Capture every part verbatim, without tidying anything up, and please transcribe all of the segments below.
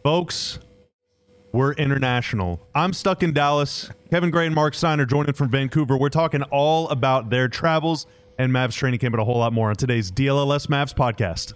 Folks, we're international. I'm stuck in Dallas. Kevin Gray and Mark Stein are joining from Vancouver. We're talking all about their travels and Mavs training camp and a whole lot more on today's D L L S Mavs podcast.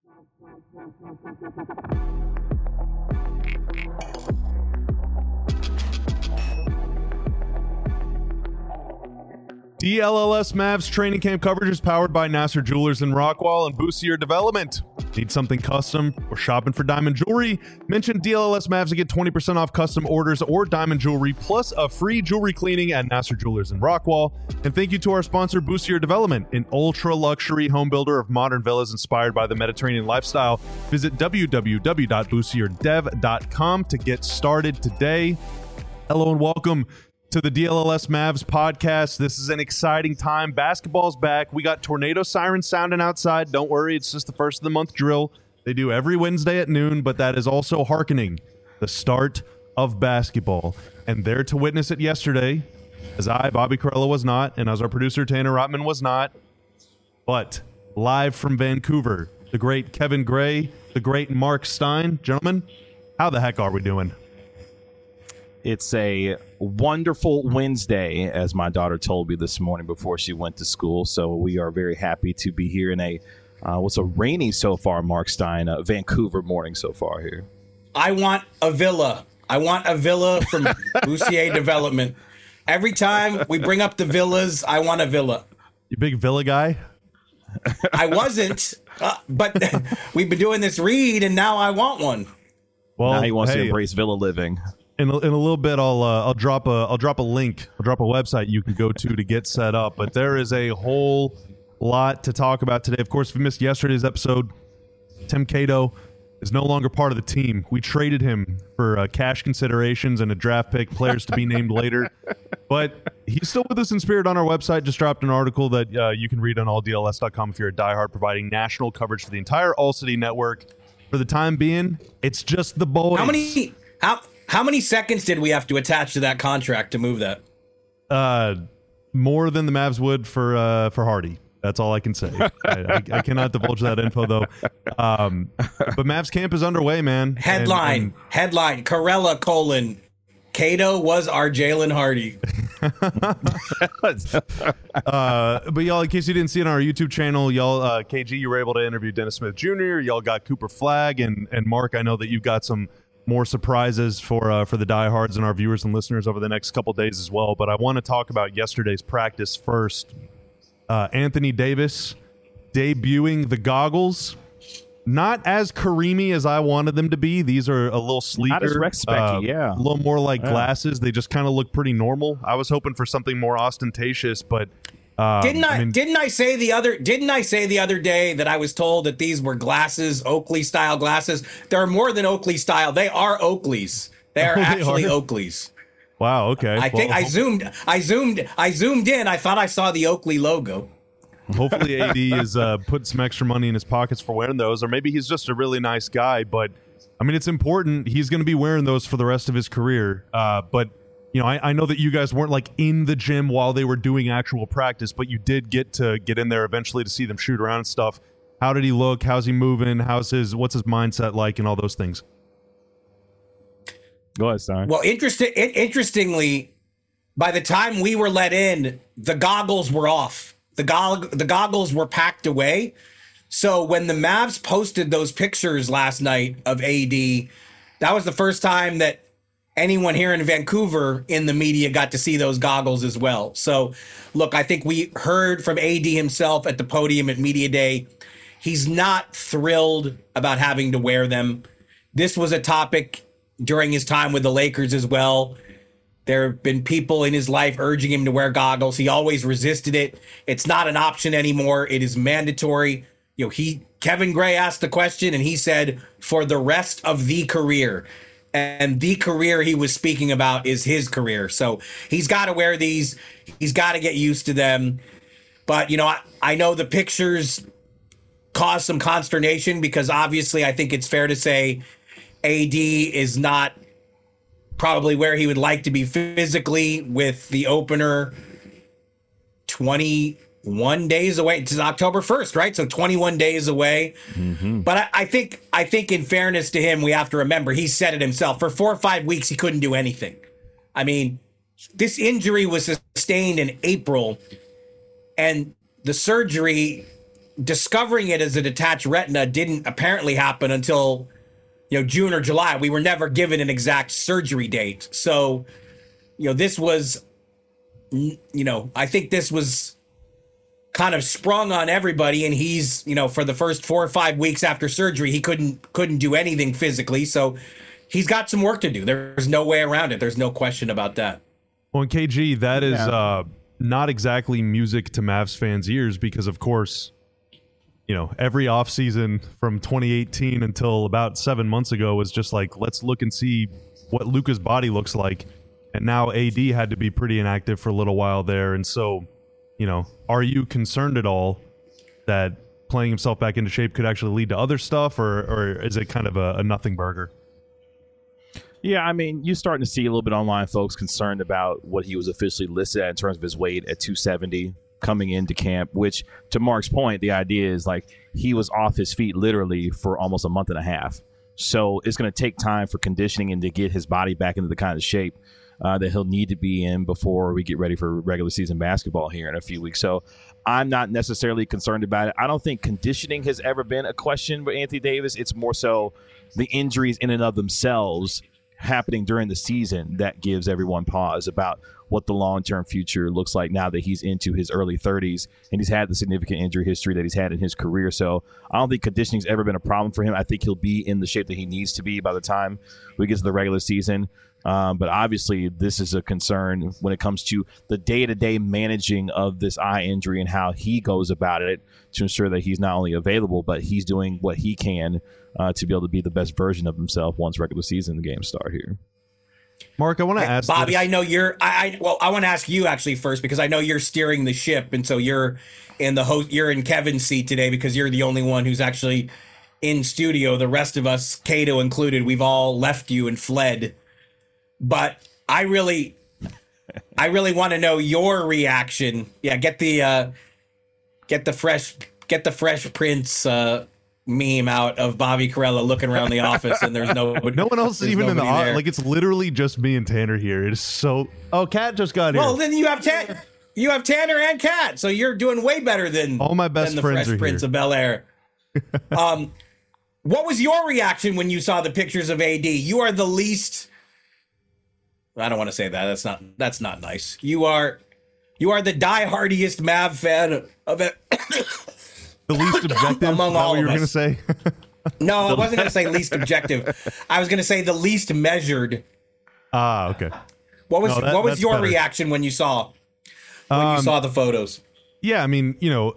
D L L S Mavs training camp coverage is powered by Nasser Jewelers in Rockwall and Boostier Development. Need something custom or shopping for diamond jewelry? Mention D L L S Mavs to get twenty percent off custom orders or diamond jewelry plus a free jewelry cleaning at Nasser Jewelers in Rockwall. And thank you to our sponsor, Boostier Development, an ultra-luxury home builder of modern villas inspired by the Mediterranean lifestyle. Visit w w w dot boostier dev dot com to get started today. Hello and welcome to the D L L S Mavs podcast. This is an exciting time. Basketball's back. We got tornado sirens sounding outside. Don't worry, it's just the first of the month drill. They do every Wednesday at noon, but that is also hearkening the start of basketball. And there to witness it yesterday, as I, Bobby Corella, was not, and as our producer, Tanner Rotman, was not, but live from Vancouver, the great Kevin Gray, the great Mark Stein. Gentlemen, how the heck are we doing? It's a wonderful Wednesday, as my daughter told me this morning before she went to school. So we are very happy to be here in a, uh, what's a rainy so far, Mark Stein, uh, Vancouver morning so far here. I want a villa. I want a villa from Boostier Development. Every time we bring up the villas, I want a villa. You big villa guy? I wasn't, uh, but we've been doing this read, and now I want one. Well, now he wants hey, to embrace villa living. In a, in a little bit, I'll uh, I'll drop a I'll drop a link. I'll drop a website you can go to to get set up. But there is a whole lot to talk about today. Of course, if you missed yesterday's episode, Tim Cato is no longer part of the team. We traded him for uh, cash considerations and a draft pick, players to be named later. But he's still with us in spirit on our website. Just dropped an article that uh, you can read on all D L S dot com if you're a diehard, providing national coverage for the entire All City network. For the time being, it's just the boys. How many? How? How many seconds did we have to attach to that contract to move that? Uh, more than the Mavs would for uh, for Hardy. That's all I can say. I, I, I cannot divulge that info, though. Um, but Mavs camp is underway, man. Headline, and, and headline, Corella, colon, Cato was our Jalen Hardy. uh, but y'all, in case you didn't see it on our YouTube channel, y'all, uh, K G, you were able to interview Dennis Smith Junior Y'all got Cooper Flagg, and, and Mark, I know that you've got some more surprises for uh, for the diehards and our viewers and listeners over the next couple days as well. But I want to talk about yesterday's practice first. Uh, Anthony Davis debuting the goggles. Not as Kareem-y as I wanted them to be. These are a little sleeker. Not as Rex Specky, uh, A yeah. little more like yeah. glasses. They just kind of look pretty normal. I was hoping for something more ostentatious, but Um, didn't I, I mean, didn't I say the other didn't I say the other day that I was told that these were glasses, Oakley style glasses? They're more than Oakley style. They are Oakleys. They are Oh, they actually are? Oakleys. Wow. Okay. I think Well, I zoomed I zoomed I zoomed in. I thought I saw the Oakley logo. Hopefully A D is uh, putting some extra money in his pockets for wearing those, or maybe he's just a really nice guy. But I mean, it's important. He's going to be wearing those for the rest of his career. Uh, but you know, I, I know that you guys weren't like in the gym while they were doing actual practice, but you did get to get in there eventually to see them shoot around and stuff. How did he look? How's he moving? How's his, what's his mindset like and all those things? Go ahead, Stein. Well, interesting. Interestingly, by the time we were let in, the goggles were off. The gog- the goggles were packed away. So when the Mavs posted those pictures last night of A D, that was the first time that anyone here in Vancouver in the media got to see those goggles as well. So, look, I think we heard from A D himself at the podium at Media Day. He's not thrilled about having to wear them. This was a topic during his time with the Lakers as well. There have been people in his life urging him to wear goggles. He always resisted it. It's not an option anymore. It is mandatory. You know, he Kevin Gray asked the question and he said, for the rest of the career. And the career he was speaking about is his career. So he's got to wear these. He's got to get used to them. But, you know, I, I know the pictures caused some consternation because obviously I think it's fair to say A D is not probably where he would like to be physically with the opener twenty-one twenty-one days away. It's October first, right? So twenty-one days away. Mm-hmm. But I, I think, I think in fairness to him, we have to remember he said it himself. For four or five weeks, he couldn't do anything. I mean, this injury was sustained in April, and the surgery, discovering it as a detached retina, didn't apparently happen until, you know, June or July. We were never given an exact surgery date. So, you know, this was, you know, I think this was kind of sprung on everybody, and he's, you know, for the first four or five weeks after surgery, he couldn't couldn't do anything physically. So he's got some work to do. There's no way around it. There's no question about that. Well, and K G, that is Yeah. uh, not exactly music to Mavs fans' ears because, of course, you know, every offseason from twenty eighteen until about seven months ago was just like, let's look and see what Luka's body looks like. And now A D had to be pretty inactive for a little while there. And so, you know, are you concerned at all that playing himself back into shape could actually lead to other stuff, or, or is it kind of a, a nothing burger? Yeah, I mean, you're starting to see a little bit online folks concerned about what he was officially listed at in terms of his weight at two seventy coming into camp, which, to Mark's point, the idea is like he was off his feet literally for almost a month and a half. So it's going to take time for conditioning and to get his body back into the kind of shape uh, that he'll need to be in before we get ready for regular season basketball here in a few weeks. So I'm not necessarily concerned about it. I don't think conditioning has ever been a question with Anthony Davis. It's more so the injuries in and of themselves happening during the season that gives everyone pause about what the long-term future looks like now that he's into his early thirties and he's had the significant injury history that he's had in his career. So I don't think conditioning's ever been a problem for him. I think he'll be in the shape that he needs to be by the time we get to the regular season. Um, but obviously this is a concern when it comes to the day-to-day managing of this eye injury and how he goes about it to ensure that he's not only available, but he's doing what he can uh, to be able to be the best version of himself once regular season games start here. Mark, I want to ask Bobby, this. I know you're I, I well, I want to ask you actually first, because I know you're steering the ship, and so you're in the host you're in Kevin's seat today because you're the only one who's actually in studio. The rest of us, Cato included, we've all left you and fled. But I really I really want to know your reaction. Yeah, get the uh get the fresh get the Fresh Prince uh meme out of Bobby Carella looking around the office and there's no no one else is even in the office. Like, it's literally just me and Tanner here. It is so. Oh, Kat just got here. Well, then you have Tanner, you have Tanner and Kat, so you're doing way better than all my best than the friends Fresh are Prince here. of Bel Air. um, what was your reaction when you saw the pictures of A D? You are the least. I don't want to say that. That's not. That's not nice. You are. You are the diehardiest Mav fan of it. The least objective. Among is that all what you of were going to us. say? No, I wasn't going to say least objective. I was going to say the least measured. Ah, okay. What was No, that- what was that's your better. reaction when you saw when you Um, saw the photos? Yeah, I mean, you know,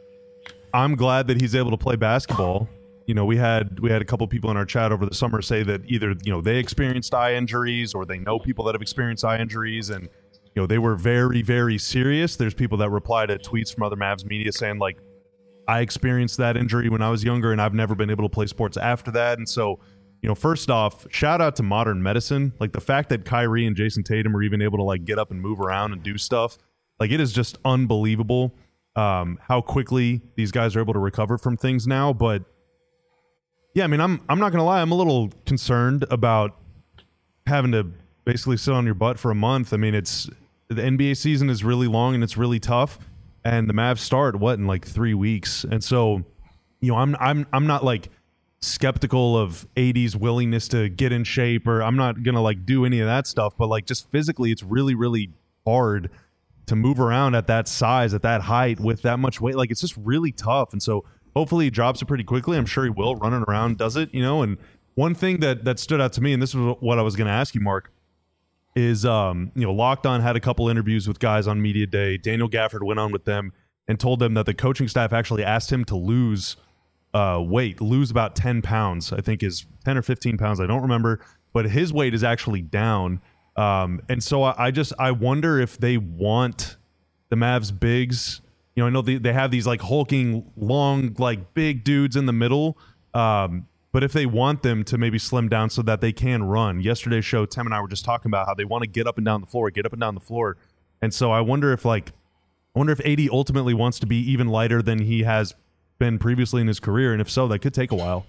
I'm glad that he's able to play basketball. You know, we had we had a couple people in our chat over the summer say that either, you know, they experienced eye injuries or they know people that have experienced eye injuries, and, you know, they were very, very serious. There's people that reply to tweets from other Mavs media saying, like, I experienced that injury when I was younger and I've never been able to play sports after that. And so, you know, first off, shout out to modern medicine. Like, the fact that Kyrie and Jason Tatum are even able to, like, get up and move around and do stuff, like, it is just unbelievable um, how quickly these guys are able to recover from things now. But yeah, I mean, I'm I'm not gonna lie, I'm a little concerned about having to basically sit on your butt for a month. I mean, it's the N B A season is really long and it's really tough, and the Mavs start what in like three weeks, and so, you know, I'm I'm I'm not like skeptical of A D's willingness to get in shape, or I'm not gonna like do any of that stuff, but like just physically, it's really really hard to move around at that size, at that height, with that much weight. Like, it's just really tough, and so. Hopefully he drops it pretty quickly. I'm sure he will. Running around does it, you know. And one thing that that stood out to me, and this is what I was going to ask you, Mark, is um, you know, Locked On had a couple interviews with guys on Media Day. Daniel Gafford went on with them and told them that the coaching staff actually asked him to lose uh, weight, lose about ten pounds. I think is ten or fifteen pounds. I don't remember, but his weight is actually down. Um, and so I, I just I wonder if they want the Mavs bigs. You know, I know they, they have these like hulking, long, like big dudes in the middle. Um, but if they want them to maybe slim down so that they can run. Yesterday's show, Tim and I were just talking about how they want to get up and down the floor, get up and down the floor. And so I wonder if like I wonder if A D ultimately wants to be even lighter than he has been previously in his career, and if so, that could take a while.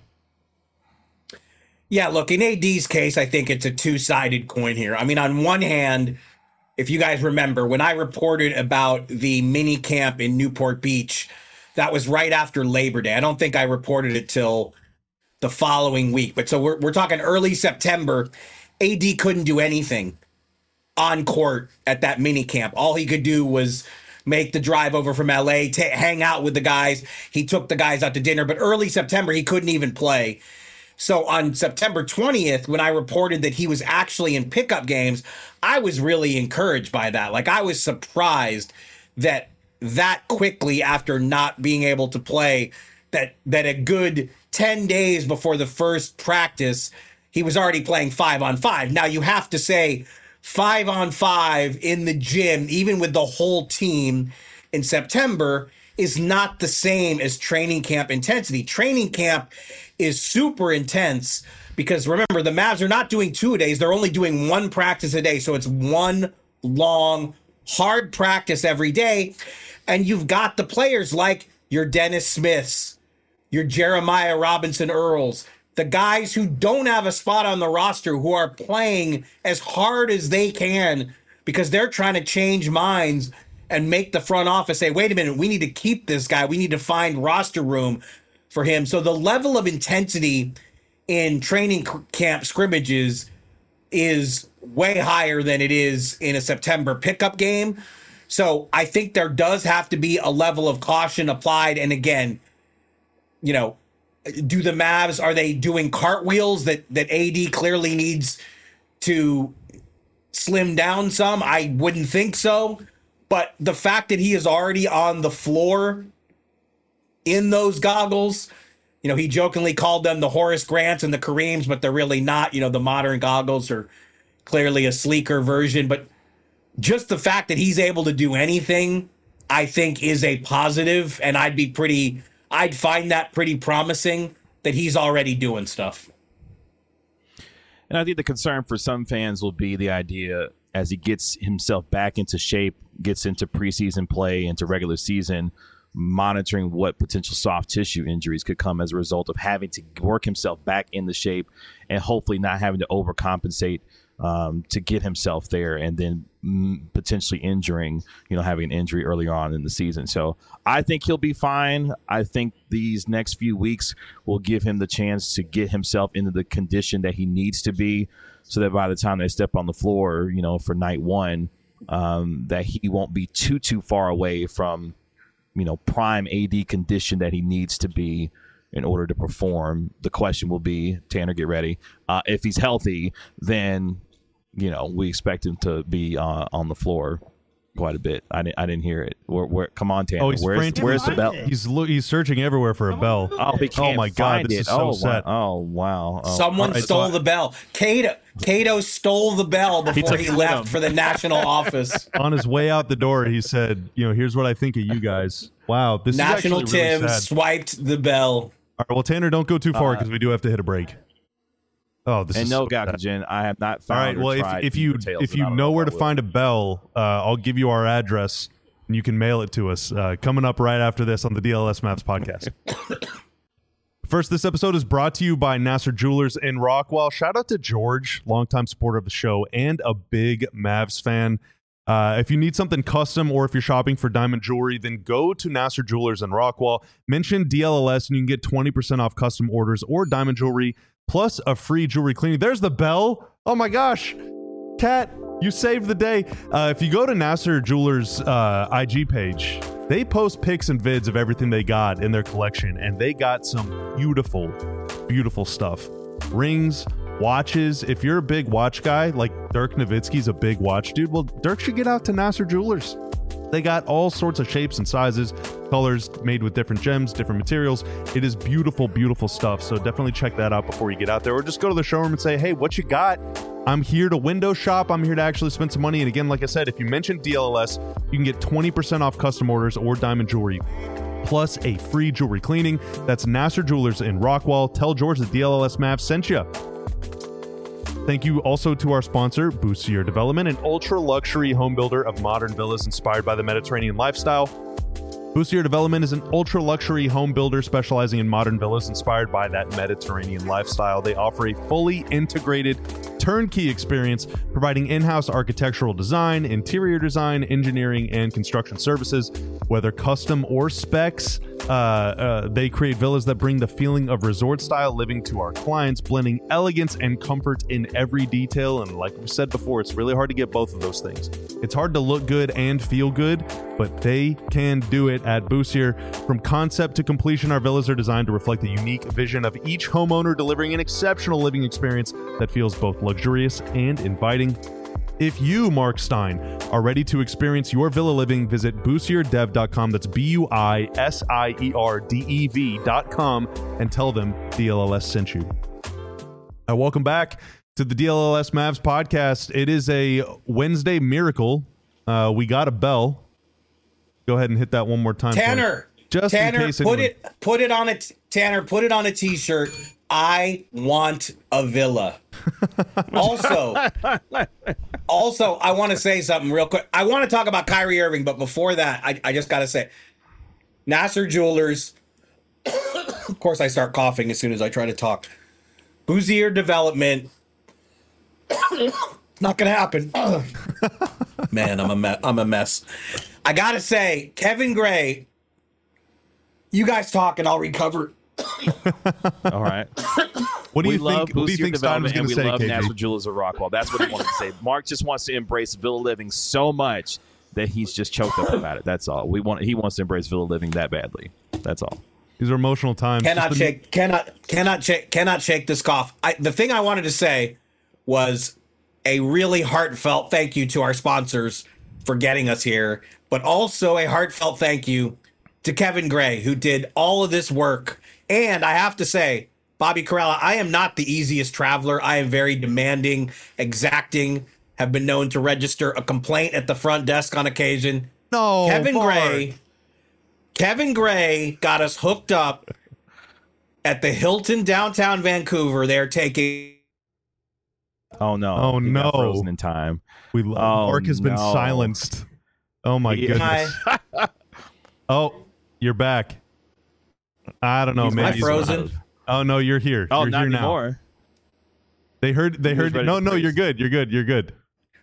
Yeah, look, in A D's case, I think it's a two-sided coin here. I mean, on one hand, if you guys remember, when I reported about the mini camp in Newport Beach, that was right after Labor Day. I don't think I reported it till the following week. But so we're, we're talking early September. A D couldn't do anything on court at that mini camp. All he could do was make the drive over from L A, t- hang out with the guys. He took the guys out to dinner. But early September, he couldn't even play. So on September twentieth, when I reported that he was actually in pickup games, I was really encouraged by that. Like, I was surprised that that quickly after not being able to play, that that a good ten days before the first practice, he was already playing five on five. Now, you have to say five on five in the gym, even with the whole team in September, is not the same as training camp intensity. Training camp is super intense because, remember, the Mavs are not doing two a days. They're only doing one practice a day. So it's one long, hard practice every day. And you've got the players like your Dennis Smiths, your Jeremiah Robinson Earls, the guys who don't have a spot on the roster, who are playing as hard as they can because they're trying to change minds and make the front office say, wait a minute, we need to keep this guy. We need to find roster room for him. So the level of intensity in training camp scrimmages is way higher than it is in a September pickup game. So I think there does have to be a level of caution applied. And again, you know, do the Mavs, are they doing cartwheels that, that A D clearly needs to slim down some? I wouldn't think so. But the fact that he is already on the floor in those goggles, you know, he jokingly called them the Horace Grants and the Kareems, but they're really not. You know, the modern goggles are clearly a sleeker version. But just the fact that he's able to do anything, I think, is a positive. And I'd be pretty, I'd find that pretty promising that he's already doing stuff. And I think the concern for some fans will be the idea as he gets himself back into shape, gets into preseason play, into regular season, monitoring what potential soft tissue injuries could come as a result of having to work himself back into shape and hopefully not having to overcompensate um, to get himself there and then mm, potentially injuring, you know, having an injury earlier on in the season. So I think he'll be fine. I think these next few weeks will give him the chance to get himself into the condition that he needs to be so that by the time they step on the floor, you know, for night one, um, that he won't be too, too far away from, you know, prime A D condition that he needs to be in order to perform. The question will be, Tanner, get ready. Uh, if he's healthy, then, you know, we expect him to be uh, on the floor quite a bit. I didn't, I didn't hear it. Where, where, come on, Tanner. Oh, he's where's, where's the bell? He's lo- he's searching everywhere for a bell. Oh, he can't oh my God, find this it. is so oh, sad. Wow. Oh, wow. Oh. Someone right, stole so the bell. Cato, Cato stole the bell before He he, took it left with him. for the national office. On his way out the door, he said, you know, here's what I think of you guys. Wow, this National is actually Tim really sad. swiped the bell. All right, well, Tanner, don't go too far because we do have to hit a break. Oh, this And is no, so sad. Gakujen, I have not All found right, or well, if, tried if you details, if and you I don't know where if to I find a will. bell, uh, I'll give you our address and you can mail it to us. Uh, coming up right after this on the D L S Mavs podcast. First, this episode is brought to you by Nasser Jewelers in Rockwall. Shout out to George, longtime supporter of the show and a big Mavs fan. Uh, if you need something custom or if you're shopping for diamond jewelry, then go to Nasser Jewelers in Rockwall. Mention D L L S and you can get twenty percent off custom orders or diamond jewelry plus a free jewelry cleaning. There's the bell. Oh my gosh. Kat, you saved the day. Uh, if you go to Nasser Jewelers' uh, I G page, they post pics and vids of everything they got in their collection, and they got some beautiful, beautiful stuff. Rings, watches. If you're a big watch guy, like Dirk Nowitzki's a big watch dude, well, Dirk should get out to Nasser Jewelers. They got all sorts of shapes and sizes, colors made with different gems, different materials. It is beautiful, beautiful stuff. So definitely check that out before you get out there, or just go to the showroom and say, hey, what you got? I'm here to window shop. I'm here to actually spend some money. And again, like I said, if you mention D L L S, you can get twenty percent off custom orders or diamond jewelry, plus a free jewelry cleaning. That's Nasser Jewelers in Rockwall. Tell George that D L L S Mavs sent you. Thank you also to our sponsor, Boussier Development, an ultra-luxury home builder of modern villas inspired by the Mediterranean lifestyle. Boussier Development is an ultra-luxury home builder specializing in modern villas inspired by that Mediterranean lifestyle. They offer a fully integrated turnkey experience, providing in-house architectural design, interior design, engineering, and construction services. Whether custom or specs, uh, uh, they create villas that bring the feeling of resort-style living to our clients, blending elegance and comfort in every detail. And like we said before, it's really hard to get both of those things. It's hard to look good and feel good, but they can do it at Boussier. From concept to completion, our villas are designed to reflect the unique vision of each homeowner, delivering an exceptional living experience that feels both luxurious and inviting. If you, Mark Stein, are ready to experience your villa living, visit boussier dev dot com. That's B U I S I E R D E V dot com and tell them D L L S sent you. Uh, welcome back to the D L L S Mavs podcast. It is a Wednesday miracle. Uh, we got a bell. Go ahead and hit that one more time. Tanner, just Tanner, in case put anyone... it, put it on a t- Tanner, put it on a t-shirt. I want a villa. Also, also, I want to say something real quick. I want to talk about Kyrie Irving, but before that, I, I just got to say, Nasser Jewelers. Of course, I start coughing as soon as I try to talk. Boussier Development. Not gonna happen. Man, I'm a me- I'm a mess. I gotta say, Kevin Gray. You guys talk, and I'll recover. All right. What do we you love think? What do you think Stein was going to say? We love K J? National Jewelers of Rockwall. That's what he wanted to say. Mark just wants to embrace villa living so much that he's just choked up about it. That's all. We want. He wants to embrace villa living that badly. That's all. These are emotional times. Cannot Just shake. The... Cannot. Cannot shake. Cannot shake this cough. I, the thing I wanted to say was a really heartfelt thank you to our sponsors for getting us here, but also a heartfelt thank you to Kevin Gray, who did all of this work. And I have to say, Bobby Karalla, I am not the easiest traveler. I am very demanding, exacting, have been known to register a complaint at the front desk on occasion. No, Kevin Mark. Gray, Kevin Gray got us hooked up at the Hilton downtown Vancouver. They're taking. Oh no! Oh He no! got frozen in time. We love Oh, Mark has been no. silenced. Oh my He- goodness! Oh, you're back. I don't know. He's Maybe I he's frozen? alive. Oh no, you're here. Oh, you're not here now. anymore. They heard. They He was heard. ready No, to no, praise. you're good. You're good. You're good.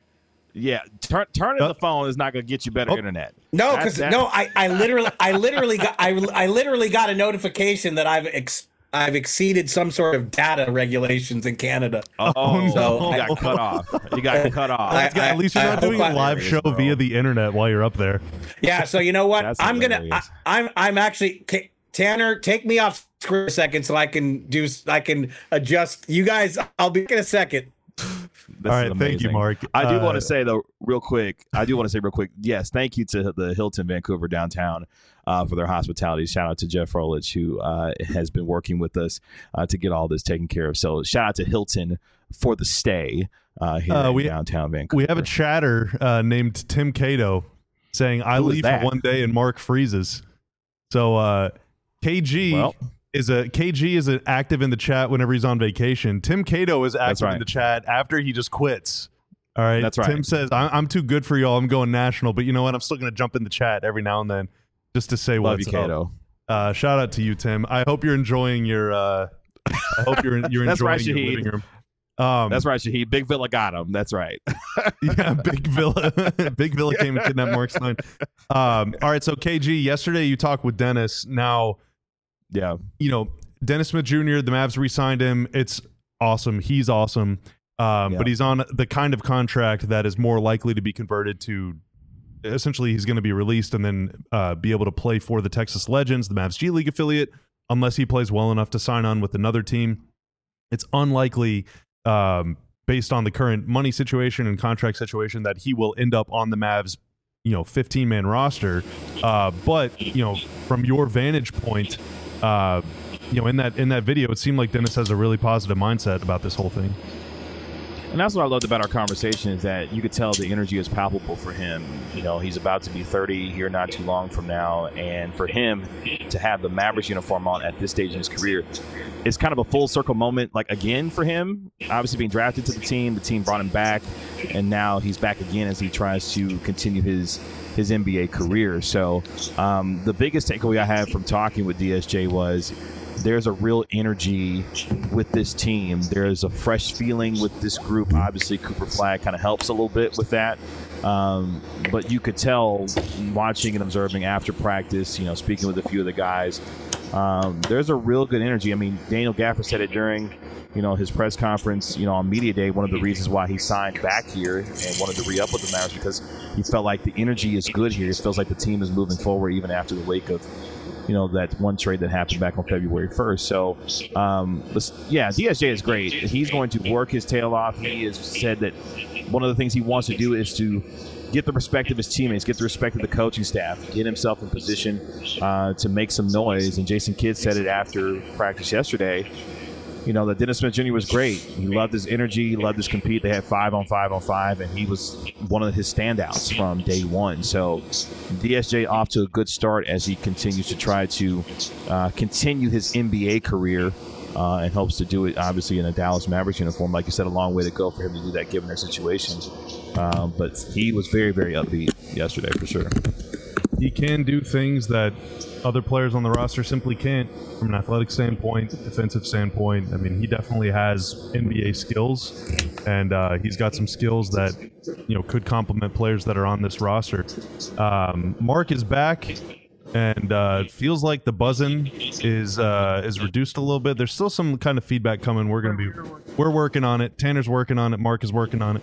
Yeah, turn turning Oh. the phone is not going to get you better Oh. internet. No, That's- because that- no, I, I literally, I literally got, I, I literally got a notification that I've ex, I've exceeded some sort of data regulations in Canada. Oh, Oh, no. you got cut off. You got cut off. I- Yeah, at least you're I not hope doing a I- live Hilarious, show bro. via the internet while you're up there. Yeah, so you know what? That's I'm gonna, I, hilarious. I'm, I'm actually K- Tanner. Take me off screen for a second so I can do, I can adjust. You guys, I'll be in a second. This All is right, thank you, amazing. Mark. I do Uh, want to say though, real quick. I do want to say real quick. Yes, thank you to the Hilton Vancouver downtown uh, for their hospitality. Shout out to Jeff Frolich, who uh, has been working with us uh, to get all this taken care of. So shout out to Hilton for the stay uh, here Uh, in we- downtown Vancouver. We have a chatter uh, named Tim Cato saying, "I Who is leave that? for one day and Mark freezes." So uh, K G Well. is a K G is a, active in the chat whenever he's on vacation. Tim Cato is active right. in the chat after he just quits. All right, That's right. Tim says, I- "I'm too good for y'all. I'm going national, but you know what? I'm still going to jump in the chat every now and then just to say Love what's you, up." Cato. Uh, shout out to you, Tim. I hope you're enjoying your. Uh, I hope you're you're That's enjoying right, your Shahid. living room. Um, That's right, Shahid. Big Villa got him. That's right. Yeah, Big Villa. Big Villa came and kidnapped Mark Stein. Um, all right, so K G, yesterday you talked with Dennis. Now, Yeah. you know, Dennis Smith Junior, the Mavs re-signed him. It's awesome. He's awesome. Um, Yeah. But he's on the kind of contract that is more likely to be converted to essentially he's going to be released and then uh, be able to play for the Texas Legends, the Mavs G League affiliate, unless he plays well enough to sign on with another team. It's unlikely, um, based on the current money situation and contract situation, that he will end up on the Mavs, you know, fifteen-man roster. Uh, but, you know, from your vantage point, uh, you know, in that in that video, it seemed like Dennis has a really positive mindset about this whole thing. And that's what I loved about our conversation is that you could tell the energy is palpable for him. You know, he's about to be thirty here not too long from now. And for him to have the Mavericks uniform on at this stage in his career is kind of a full circle moment, like, again, for him. Obviously being drafted to the team, the team brought him back, and now he's back again as he tries to continue his his N B A career. So um, the biggest takeaway I had from talking with D S J was there's a real energy with this team. There's a fresh feeling with this group. Obviously, Cooper Flagg kind of helps a little bit with that. Um, but you could tell watching and observing after practice, you know, speaking with a few of the guys, um, there's a real good energy. I mean, Daniel Gafford said it during, you know, his press conference, you know, on Media Day, one of the reasons why he signed back here and wanted to re-up with the Mavericks because he felt like the energy is good here. It feels like the team is moving forward even after the wake of, you know, that one trade that happened back on February first. So, um, yeah, D S J is great. He's going to work his tail off. He has said that one of the things he wants to do is to get the respect of his teammates, get the respect of the coaching staff, get himself in position uh, to make some noise. And Jason Kidd said it after practice yesterday, you know, that Dennis Smith Junior was great. He loved his energy, he loved his compete. They had five on five on five, and he was one of his standouts from day one. So D S J off to a good start as he continues to try to uh, continue his N B A career uh, and hopes to do it, obviously, in a Dallas Mavericks uniform. Like you said, a long way to go for him to do that given their situation. Um, but he was very, very upbeat yesterday for sure. He can do things that other players on the roster simply can't from an athletic standpoint, defensive standpoint. I mean, he definitely has N B A skills, and uh, he's got some skills that, you know, could complement players that are on this roster. Um, Mark is back, and uh, it feels like the buzzing is uh, is reduced a little bit. There's still some kind of feedback coming. We're going to be we're working on it. Tanner's working on it. Mark is working on it.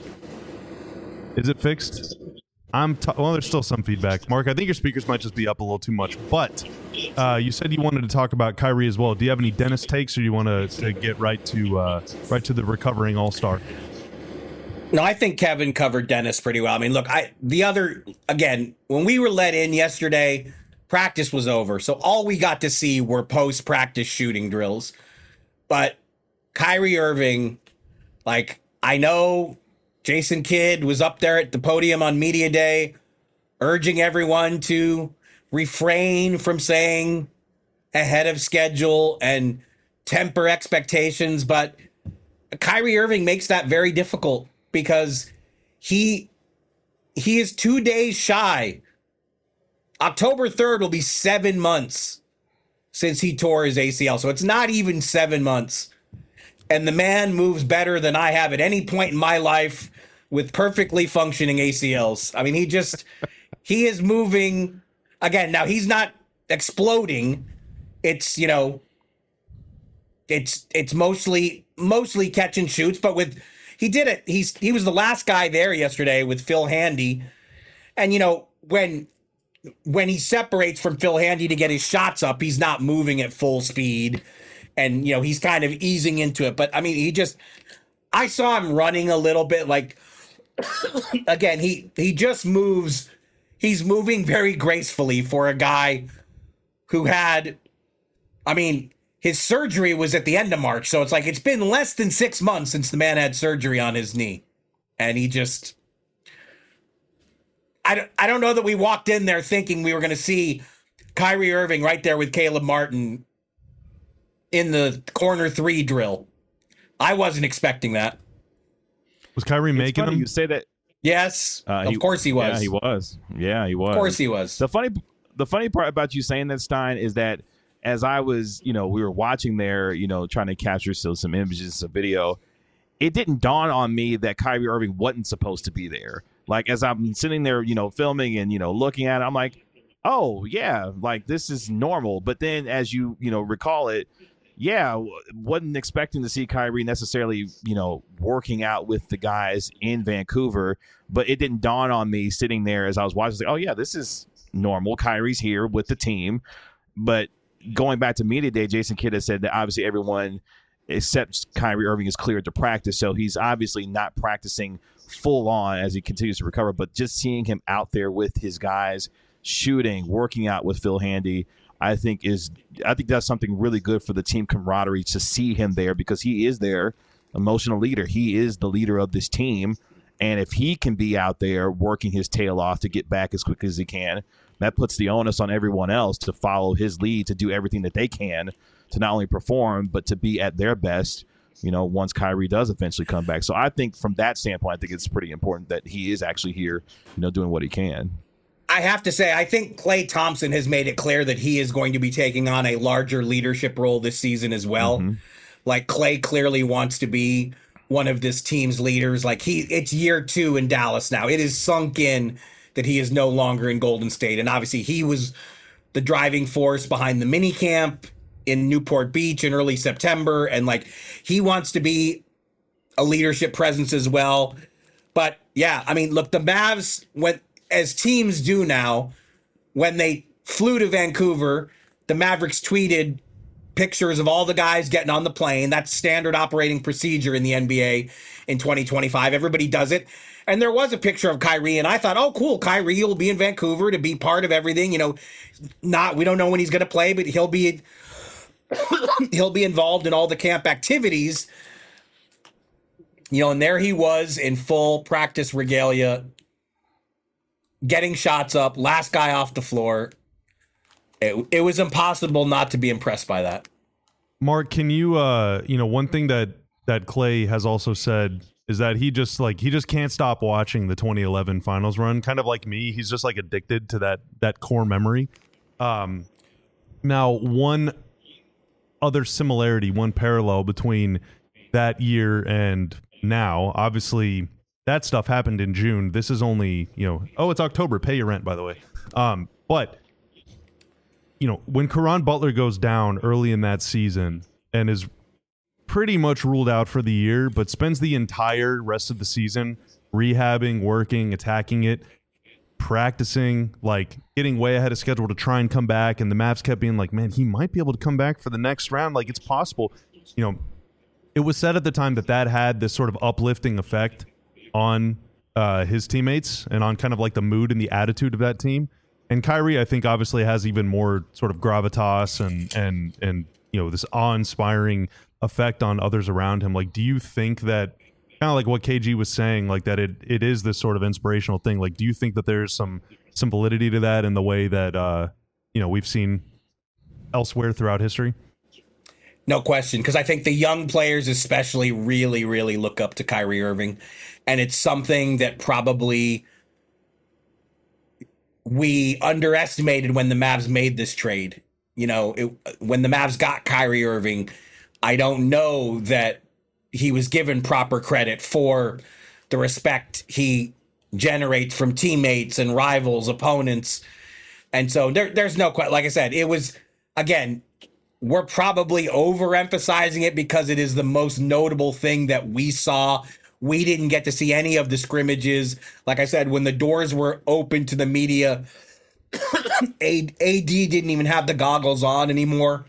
Is it fixed? I'm t- well, there's still some feedback. Mark, I think your speakers might just be up a little too much. But uh, you said you wanted to talk about Kyrie as well. Do you have any Dennis takes, or do you want to, to get right to uh, right to the recovering All-Star? No, I think Kevin covered Dennis pretty well. I mean, look, I the other again, when we were let in yesterday, practice was over, so all we got to see were post-practice shooting drills. But Kyrie Irving, like, I know Jason Kidd was up there at the podium on Media Day urging everyone to refrain from saying ahead of schedule and temper expectations. But Kyrie Irving makes that very difficult because he he is two days shy. October third will be seven months since he tore his A C L. So it's not even seven months. And the man moves better than I have at any point in my life with perfectly functioning A C Ls. I mean, he just, he is moving. Again, now he's not exploding. It's, you know, it's it's mostly mostly catch and shoots. But with, he did it. He's He was the last guy there yesterday with Phil Handy. And, you know, when when he separates from Phil Handy to get his shots up, he's not moving at full speed. And, you know, he's kind of easing into it. But, I mean, he just, I saw him running a little bit. Like, again, he, he just moves. He's moving very gracefully for a guy who had, I mean, his surgery was at the end of March. So it's like, it's been less than six months since the man had surgery on his knee. And he just, I don't, I don't know that we walked in there thinking we were going to see Kyrie Irving right there with Caleb Martin in the corner three drill. I wasn't expecting that. Was Kyrie It's making funny them? you say that. Yes, Uh, of he- course he was. Yeah, he was. Yeah, he was. Of course he was. The funny, the funny part about you saying that, Stein, is that as I was, you know, we were watching there, you know, trying to capture still some images, some video. It didn't dawn on me that Kyrie Irving wasn't supposed to be there. Like, as I'm sitting there, you know, filming and, you know, looking at it, I'm like, oh, yeah, like, this is normal. But then as you, you know, recall it, yeah, wasn't expecting to see Kyrie necessarily, you know, working out with the guys in Vancouver. But it didn't dawn on me sitting there as I was watching, I was like, oh, yeah, this is normal. Kyrie's here with the team. But going back to Media Day, Jason Kidd has said that obviously everyone except Kyrie Irving is cleared to practice. So he's obviously not practicing full on as he continues to recover. But just seeing him out there with his guys, shooting, working out with Phil Handy, I think is I think that's something really good for the team camaraderie to see him there, because he is there emotional leader. He is the leader of this team. And if he can be out there working his tail off to get back as quick as he can, that puts the onus on everyone else to follow his lead, to do everything that they can to not only perform, but to be at their best, you know, once Kyrie does eventually come back. So I think from that standpoint, I think it's pretty important that he is actually here, you know, doing what he can. I have to say, I think Klay Thompson has made it clear that he is going to be taking on a larger leadership role this season as well. Mm-hmm. Like, Klay clearly wants to be one of this team's leaders. Like, he, it's year two in Dallas now. It is sunk in that he is no longer in Golden State. And obviously he was the driving force behind the mini camp in Newport Beach in early September. And like, he wants to be a leadership presence as well. But yeah, I mean, look, the Mavs went, as teams do now, when they flew to Vancouver, the Mavericks tweeted pictures of all the guys getting on the plane. That's standard operating procedure in the N B A in twenty twenty-five. Everybody does it. And there was a picture of Kyrie, and I thought, oh, cool, Kyrie will be in Vancouver to be part of everything. You know, not we don't know when he's going to play, but he'll be he'll be involved in all the camp activities. You know, and there he was in full practice regalia, getting shots up, last guy off the floor. It, it was impossible not to be impressed by that. Mark, can you, uh, you know, one thing that that Klay has also said is that he just like he just can't stop watching the twenty eleven finals run. Kind of like me, he's just like addicted to that that core memory. Um, now, one other similarity, one parallel between that year and now, obviously that stuff happened in June. This is only, you know, oh, it's October. Pay your rent, by the way. Um, but you know, when Caron Butler goes down early in that season and is pretty much ruled out for the year, but spends the entire rest of the season rehabbing, working, attacking it, practicing, like getting way ahead of schedule to try and come back. And the Mavs kept being like, man, he might be able to come back for the next round. Like, it's possible. You know, it was said at the time that that had this sort of uplifting effect on uh, his teammates and on kind of like the mood and the attitude of that team. And Kyrie, I think, obviously has even more sort of gravitas and and and you know, this awe-inspiring effect on others around him. Like, do you think that, kind of like what K G was saying, like that it it is this sort of inspirational thing? Like, do you think that there's some some validity to that in the way that uh, you know, we've seen elsewhere throughout history? No question, because I think the young players especially really, really look up to Kyrie Irving, and it's something that probably we underestimated when the Mavs made this trade. You know, it, when the Mavs got Kyrie Irving, I don't know that he was given proper credit for the respect he generates from teammates and rivals, opponents. And so there, there's no question. Like I said, it was, again, we're probably overemphasizing it because it is the most notable thing that we saw. We didn't get to see any of the scrimmages. Like I said, when the doors were open to the media, A D didn't even have the goggles on anymore.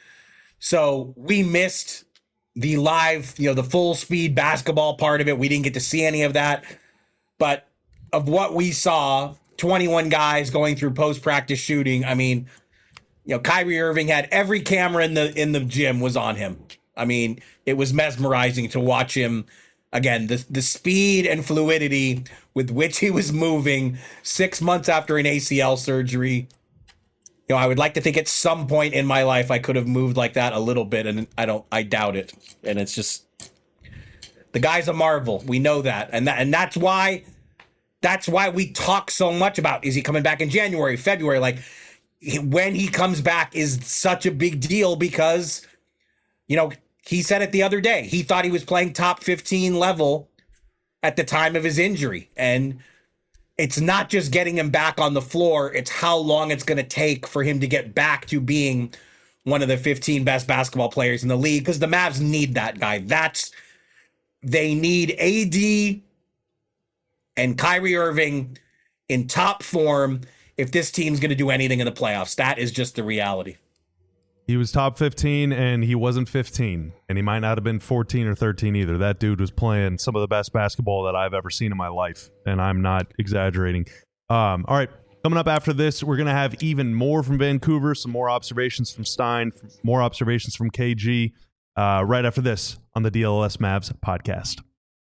So we missed the live, you know, the full speed basketball part of it. We didn't get to see any of that. But of what we saw, twenty-one guys going through post-practice shooting, I mean, you know, Kyrie Irving had every camera in the in the gym was on him. I mean, it was mesmerizing to watch him. Again, the the speed and fluidity with which he was moving six months after an A C L surgery. You know, I would like to think at some point in my life I could have moved like that a little bit, and I don't. I doubt it. And it's just, the guy's a marvel. We know that, and that, and that's why, that's why we talk so much about, is he coming back in January, February? Like, when he comes back is such a big deal because, you know, he said it the other day. He thought he was playing top fifteen level at the time of his injury. And it's not just getting him back on the floor. It's how long it's going to take for him to get back to being one of the fifteen best basketball players in the league, because the Mavs need that guy. That's, they need A D and Kyrie Irving in top form if this team's going to do anything in the playoffs. That is just the reality. He was top fifteen, and he wasn't fifteen, and he might not have been fourteen or thirteen either. That dude was playing some of the best basketball that I've ever seen in my life, and I'm not exaggerating. Um, all right, coming up after this, we're going to have even more from Vancouver, some more observations from Stein, more observations from K G. uh, right after this on the D L L S Mavs podcast.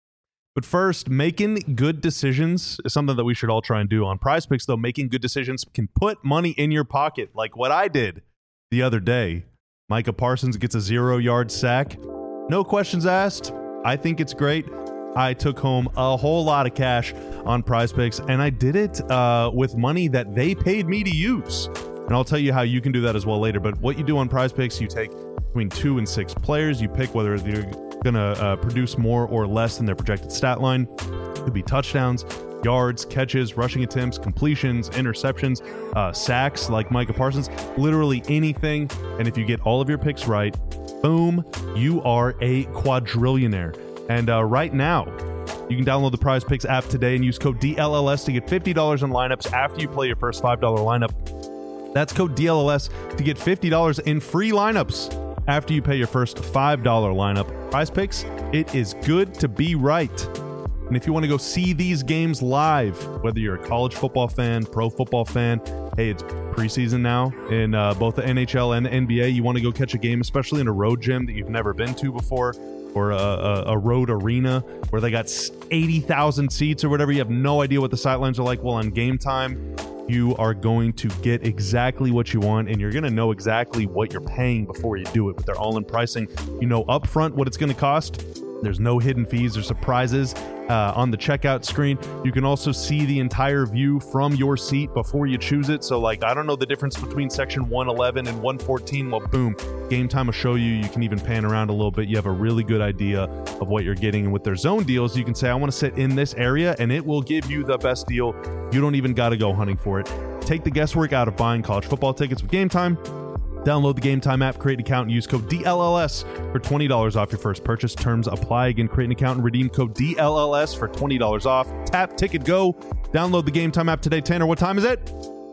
But first, making good decisions is something that we should all try and do on Prize Picks, though. Making good decisions can put money in your pocket, like what I did the other day. Micah Parsons gets a zero-yard sack. No questions asked. I think it's great. I took home a whole lot of cash on Prize Picks, and I did it uh, with money that they paid me to use. And I'll tell you how you can do that as well later. But what you do on Prize Picks, you take between two and six players. You pick whether you're going to uh, produce more or less than their projected stat line. It could be touchdowns, yards, catches, rushing attempts, completions, interceptions, uh, sacks like Micah Parsons, literally anything. And if you get all of your picks right, boom, you are a quadrillionaire. And uh, right now, you can download the Prize Picks app today and use code D L L S to get fifty dollars in lineups after you play your first five dollar lineup. That's code D L L S to get fifty dollars in free lineups after you pay your first five dollar lineup. Prize Picks, it is good to be right. And if you want to go see these games live, whether you're a college football fan, pro football fan, hey, it's preseason now in uh, both the N H L and the N B A. You want to go catch a game, especially in a road gym that you've never been to before, or a, a, a road arena where they got eighty thousand seats or whatever. You have no idea what the sidelines are like. Well, on game time, you are going to get exactly what you want, and you're going to know exactly what you're paying before you do it. But they're all in pricing. You know upfront what it's going to cost. There's no hidden fees or surprises uh, on the checkout screen. You can also see the entire view from your seat before you choose it. So, like, I don't know the difference between section one eleven and one fourteen. Well, boom, Game Time will show you. You can even pan around a little bit. You have a really good idea of what you're getting. And with their zone deals, you can say, I want to sit in this area, and it will give you the best deal. You don't even got to go hunting for it. Take the guesswork out of buying college football tickets with Game Time. Download the Game Time app, create an account, and use code D L L S for twenty dollars off your first purchase. Terms apply. Again, create an account and redeem code D L L S for twenty dollars off. Tap, ticket, go. Download the Game Time app today. Tanner, what time is it?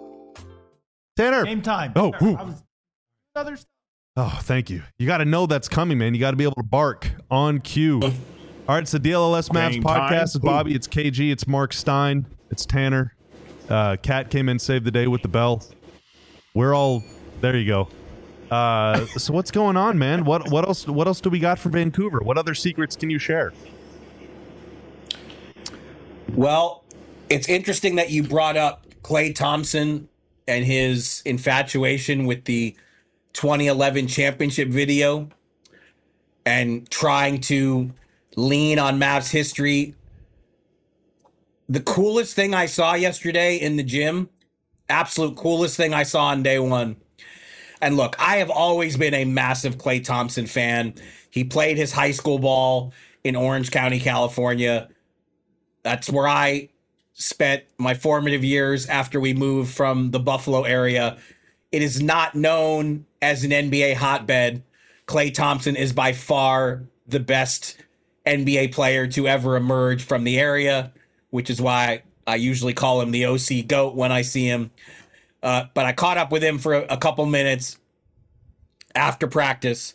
Tanner. Game time. Oh, I was, other stuff. Oh, thank you. You got to know that's coming, man. You got to be able to bark on cue. All right, it's the D L L S Mavs Game podcast. time. It's Bobby. It's K G. It's Mark Stein. It's Tanner. Uh, Kat came in, saved the day with the bell. We're all there. You go. Uh, so what's going on, man? What what else? What else do we got from Vancouver? What other secrets can you share? Well, it's interesting that you brought up Klay Thompson and his infatuation with the twenty eleven championship video and trying to lean on Mavs history. The coolest thing I saw yesterday in the gym, absolute coolest thing I saw on day one. And look, I have always been a massive Klay Thompson fan. He played his high school ball in Orange County, California. That's where I spent my formative years after we moved from the Buffalo area. It is not known as an N B A hotbed. Klay Thompson is by far the best N B A player to ever emerge from the area, which is why I usually call him the O C GOAT when I see him. Uh, but I caught up with him for a, a couple minutes after practice,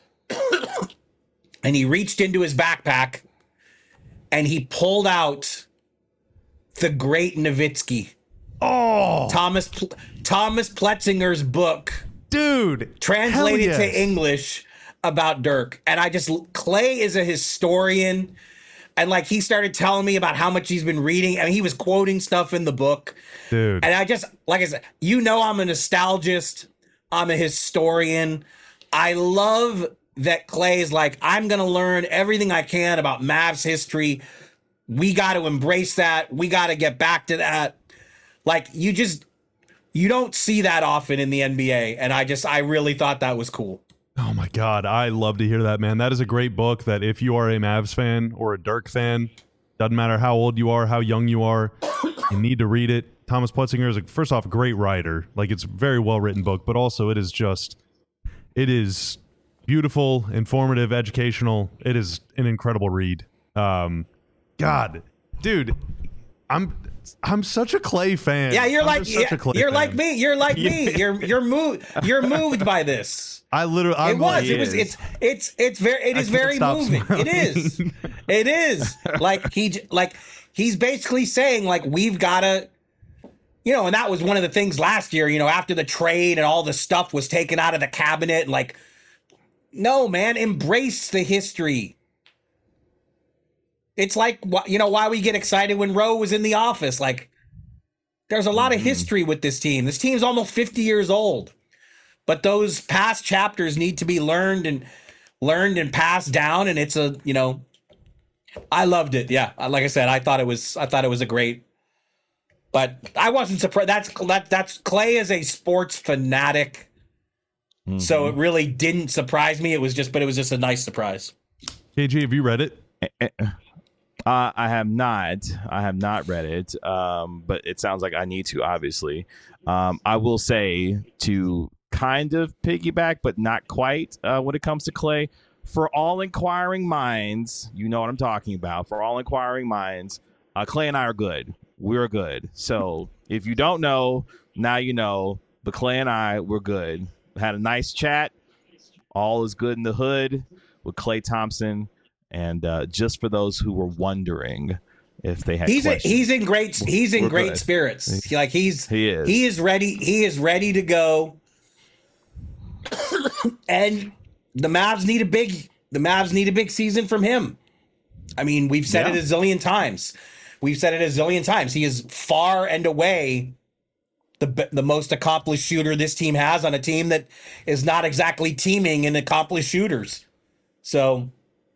and he reached into his backpack and he pulled out the Great Nowitzki. Oh, Thomas Pl- Thomas Pletzinger's book, dude, translated yes. to English about Dirk. And I just, Klay is a historian. And like, he started telling me about how much he's been reading. I mean, he was quoting stuff in the book. Dude. And I just, like I said, you know, I'm a nostalgist. I'm a historian. I love that Klay is like, I'm going to learn everything I can about Mavs history. We got to embrace that. We got to get back to that. Like, you just, you don't see that often in the N B A. And I just, I really thought that was cool. Oh my God, I love to hear that, man. That is a great book that if you are a Mavs fan or a Dirk fan, doesn't matter how old you are, how young you are, you need to read it. Thomas Pletzinger is, a, first off, a great writer. Like, it's a very well-written book, but also it is just, it is beautiful, informative, educational. It is an incredible read. Um, God, dude, I'm... I'm such a Klay fan. Yeah, you're I'm like such yeah, a Klay you're fan. like me. You're like me. You're you're moved. You're moved by this. I literally. I'm it was. Like, it was. It's. It's. It's very. It I is can't very stop moving. smiling. It is. It is. Like he. j- Like he's basically saying like we've got to. You know, and that was one of the things last year. You know, after the trade and all the stuff was taken out of the cabinet, and like No, man, embrace the history. It's like, you know, why we get excited when Rowe was in the office. Like, there's a lot mm-hmm. of history with this team. This team's almost fifty years old. But those past chapters need to be learned and learned and passed down. And it's a, you know, I loved it. Yeah. Like I said, I thought it was, I thought it was a great, but I wasn't surprised. That's, that, that's Clay is a sports fanatic. Mm-hmm. So it really didn't surprise me. It was just, but it was just a nice surprise. K G, have you read it? Uh, I have not. I have not read it, um, but it sounds like I need to, obviously. Um, I will say, to kind of piggyback, but not quite uh, when it comes to Clay, for all inquiring minds, you know what I'm talking about. For all inquiring minds, uh, Clay and I are good. We're good. So if you don't know, now you know. But Clay and I, we're good. Had a nice chat. All is good in the hood with Clay Thompson. And uh, just for those who were wondering if they had he's questions, a, he's in great he's in great good. spirits. He, like he's he is he is ready he is ready to go. And the Mavs need a big the Mavs need a big season from him. I mean, we've said yeah. it a zillion times. We've said it a zillion times. He is far and away the the most accomplished shooter this team has on a team that is not exactly teeming in accomplished shooters. So.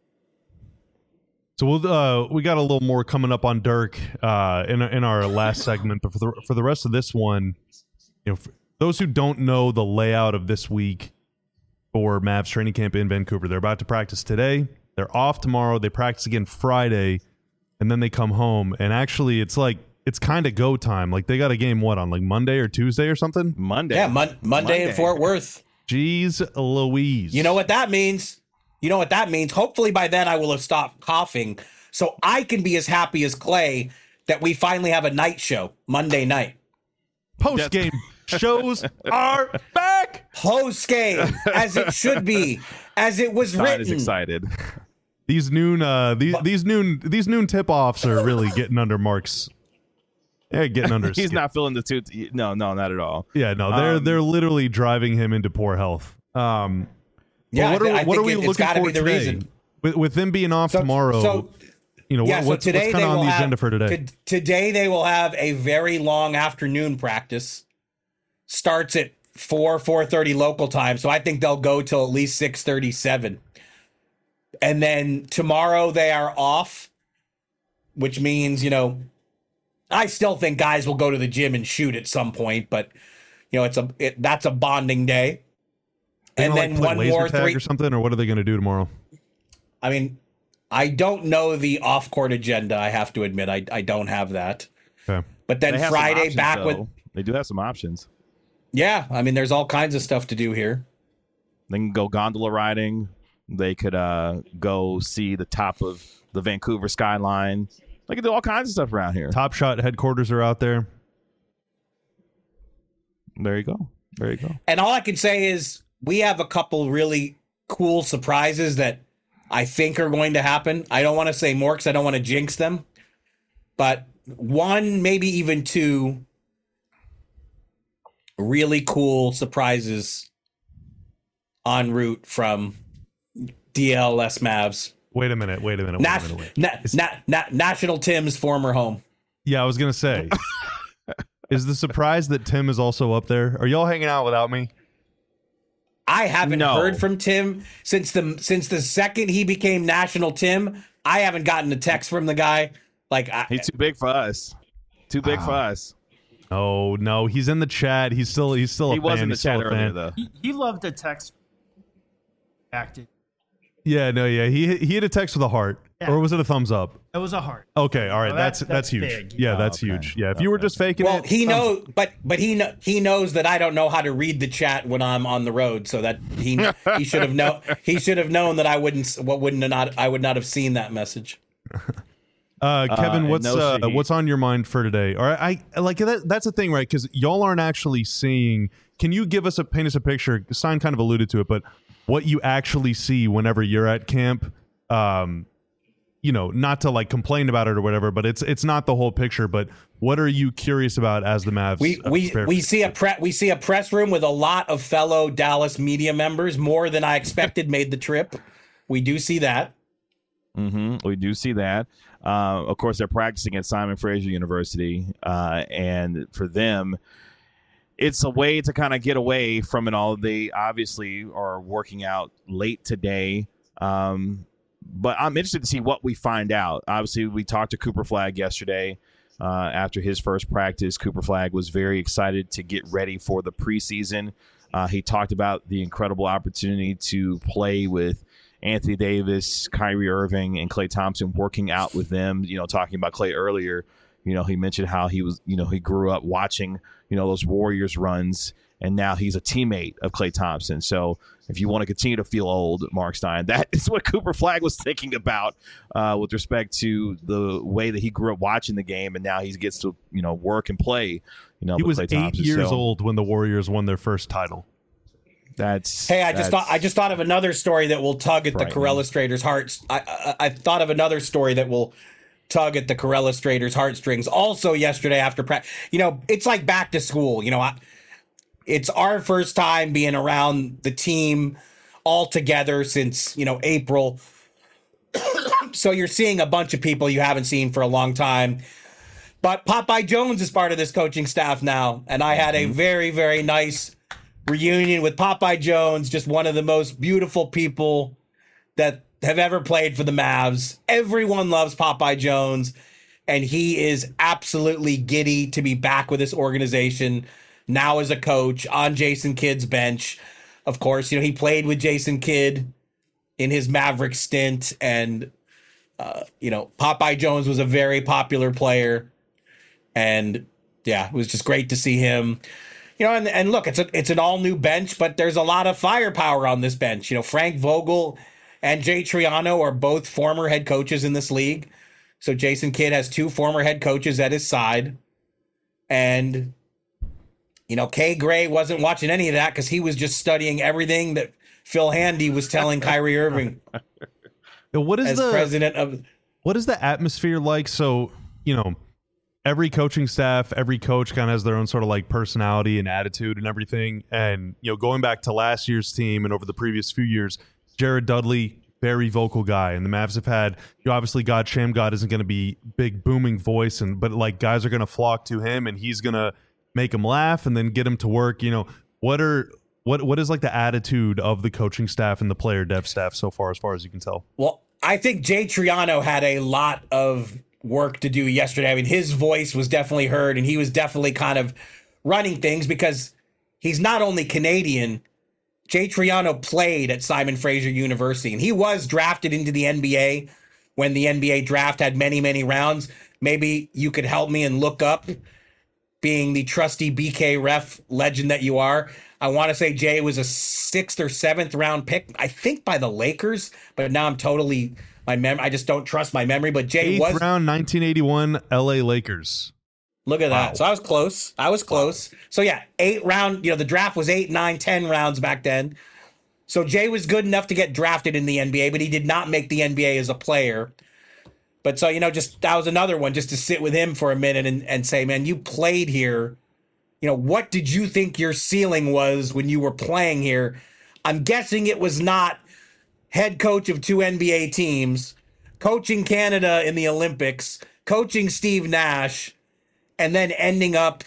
So we'll, uh, we got a little more coming up on Dirk uh, in in our last segment, but for the for the rest of this one, you know, for those who don't know the layout of this week for Mavs training camp in Vancouver, they're about to practice today. They're off tomorrow. They practice again Friday, and then they come home. And actually, it's like it's kind of go time. Like they got a game what on like Monday or Tuesday or something. Monday, yeah, mon- Monday, Monday in Fort Worth. Jeez Louise! You know what that means? You know what that means? Hopefully by then I will have stopped coughing so I can be as happy as Clay that we finally have a night show Monday night. Post game shows are back. Post game, as it should be, as it was Todd written. Is excited. These noon, uh, these but, these noon, these noon tip offs are really getting under Mark's. Yeah, getting under. He's skin. not feeling the two. No, no, not at all. Yeah, no, they're um, they're literally driving him into poor health. Um. Yeah, what are, I what are we it, looking for be the today? reason. With, with them being off so, tomorrow, so, you know, yeah, what, so what's, today what's kind of on the have, agenda for today? To, today they will have a very long afternoon practice. Starts at four, four thirty local time. So I think they'll go till at least six thirty-seven. And then tomorrow they are off, which means, you know, I still think guys will go to the gym and shoot at some point, but, you know, it's a it, that's a bonding day. And then like one more tag three or something, or what are they going to do tomorrow? I mean, I don't know the off-court agenda. I have to admit, I I don't have that. Okay. But then Friday options, back though. with they do have some options. Yeah, I mean, there's all kinds of stuff to do here. They can go gondola riding. They could uh, go see the top of the Vancouver skyline. They can do all kinds of stuff around here. Top Shot headquarters are out there. There you go. There you go. And all I can say is we have a couple really cool surprises that I think are going to happen. I don't want to say more because I don't want to jinx them. But one, maybe even two really cool surprises en route from D L S Mavs. Wait a minute. Wait a minute. Wait Na- a minute. Wait. Na- na- na- National Tim's former home. Yeah, I was going to say. Is the surprise that Tim is also up there? Are y'all hanging out without me? I haven't no. heard from Tim since the since the second he became National Tim. I haven't gotten a text from the guy. Like I, he's too big for us. Too big uh, for us. Oh no, he's in the chat. He's still he's still a he fan. was in the he's chat still a earlier fan. though. He, he loved a text. Acted. Yeah, no, yeah. He he had a text with a heart, Yeah. or was it a thumbs up? It was a heart. Okay, all right. No, that's, that's- that's that's huge. big. Yeah, Oh, that's okay. huge. Yeah, if you were Okay. just faking well, it, he thumbs- knows, but but he kn- he knows that I don't know how to read the chat when I'm on the road, so that he he should have know he should have known that I wouldn't what wouldn't have not I would not have seen that message. Uh, Kevin, Uh, what's no uh, Shahid. what's on your mind for today? All right, I like that. That's the thing, right? Because y'all aren't actually seeing. Can you give us a paint us a picture? Stein kind of alluded to it, but what you actually see whenever you're at camp, um, you know, not to like complain about it or whatever, but it's it's not the whole picture. But what are you curious about as the Mavs? We uh, we prepare we for- see a pre- we see a press room with a lot of fellow Dallas media members, more than I expected made the trip. We do see that. Mm-hmm. We do see that. Uh, of course, they're practicing at Simon Fraser University, uh, and for them, it's a way to kind of get away from it all. They obviously are working out late today. Um, But I'm interested to see what we find out. Obviously, we talked to Cooper Flagg yesterday uh, after his first practice. Cooper Flagg was very excited to get ready for the preseason. Uh, he talked about the incredible opportunity to play with Anthony Davis, Kyrie Irving, and Klay Thompson, working out with them. You know, talking about Klay earlier, you know, he mentioned how he was, you know, he grew up watching, you know, those Warriors runs, and now he's a teammate of Klay Thompson. So if you want to continue to feel old, Mark Stein, that is what Cooper Flagg was thinking about uh, with respect to the way that he grew up watching the game, and now he gets to, you know, work and play. You know, He with was Klay eight Thompson. years So old when the Warriors won their first title. That's Hey, I just that's- thought I just thought of another story that will tug at the Frightening. Corellustrators' hearts. I, I I thought of another story that will tug at the Corellustrators' heartstrings. Also, yesterday after practice, you know, it's like back to school. You know, I, it's our first time being around the team all together since, you know, April. So you're seeing a bunch of people you haven't seen for a long time. But Popeye Jones is part of this coaching staff now, and I had a very, very nice reunion with Popeye Jones, just one of the most beautiful people that have ever played for the Mavs. Everyone loves Popeye Jones, and he is absolutely giddy to be back with this organization now as a coach on Jason Kidd's bench. Of course, you know, he played with Jason Kidd in his Maverick stint, and uh, you know, Popeye Jones was a very popular player, and yeah, it was just great to see him. You know, and, and look, it's a it's an all new bench, but there's a lot of firepower on this bench. You know, Frank Vogel and Jay Triano are both former head coaches in this league. So Jason Kidd has two former head coaches at his side. And, you know, Kay Gray wasn't watching any of that because he was just studying everything that Phil Handy was telling Kyrie Irving Now, what is as the president of. what is the atmosphere like? So, you know, every coaching staff, every coach kind of has their own sort of like personality and attitude and everything. And, you know, going back to last year's team and over the previous few years, Jared Dudley, very vocal guy. And the Mavs have had, you know, obviously God, Sham God isn't going to be big booming voice, and but like guys are going to flock to him and he's going to make them laugh and then get them to work. You know, what are, what, what is like the attitude of the coaching staff and the player dev staff so far, as far as you can tell? Well, I think Jay Triano had a lot of work to do yesterday. I mean, his voice was definitely heard, and he was definitely kind of running things because he's not only Canadian. Jay Triano played at Simon Fraser University, and he was drafted into the N B A when the N B A draft had many, many rounds. Maybe you could help me and look up, being the trusty B K ref legend that you are. I want to say Jay was a sixth or seventh round pick, I think by the Lakers, but now I'm totally, my mem- I just don't trust my memory, but Jay Eighth was, round, nineteen eighty-one, L A Lakers. look at Wow. that. So I was close. I was close. So yeah, eight round, you know, the draft was eight, nine, ten rounds back then. So Jay was good enough to get drafted in the N B A, but he did not make the N B A as a player. But so, you know, just that was another one just to sit with him for a minute and, and say, man, you played here. You know, what did you think your ceiling was when you were playing here? I'm guessing it was not head coach of two N B A teams, coaching Canada in the Olympics, coaching Steve Nash, and then ending up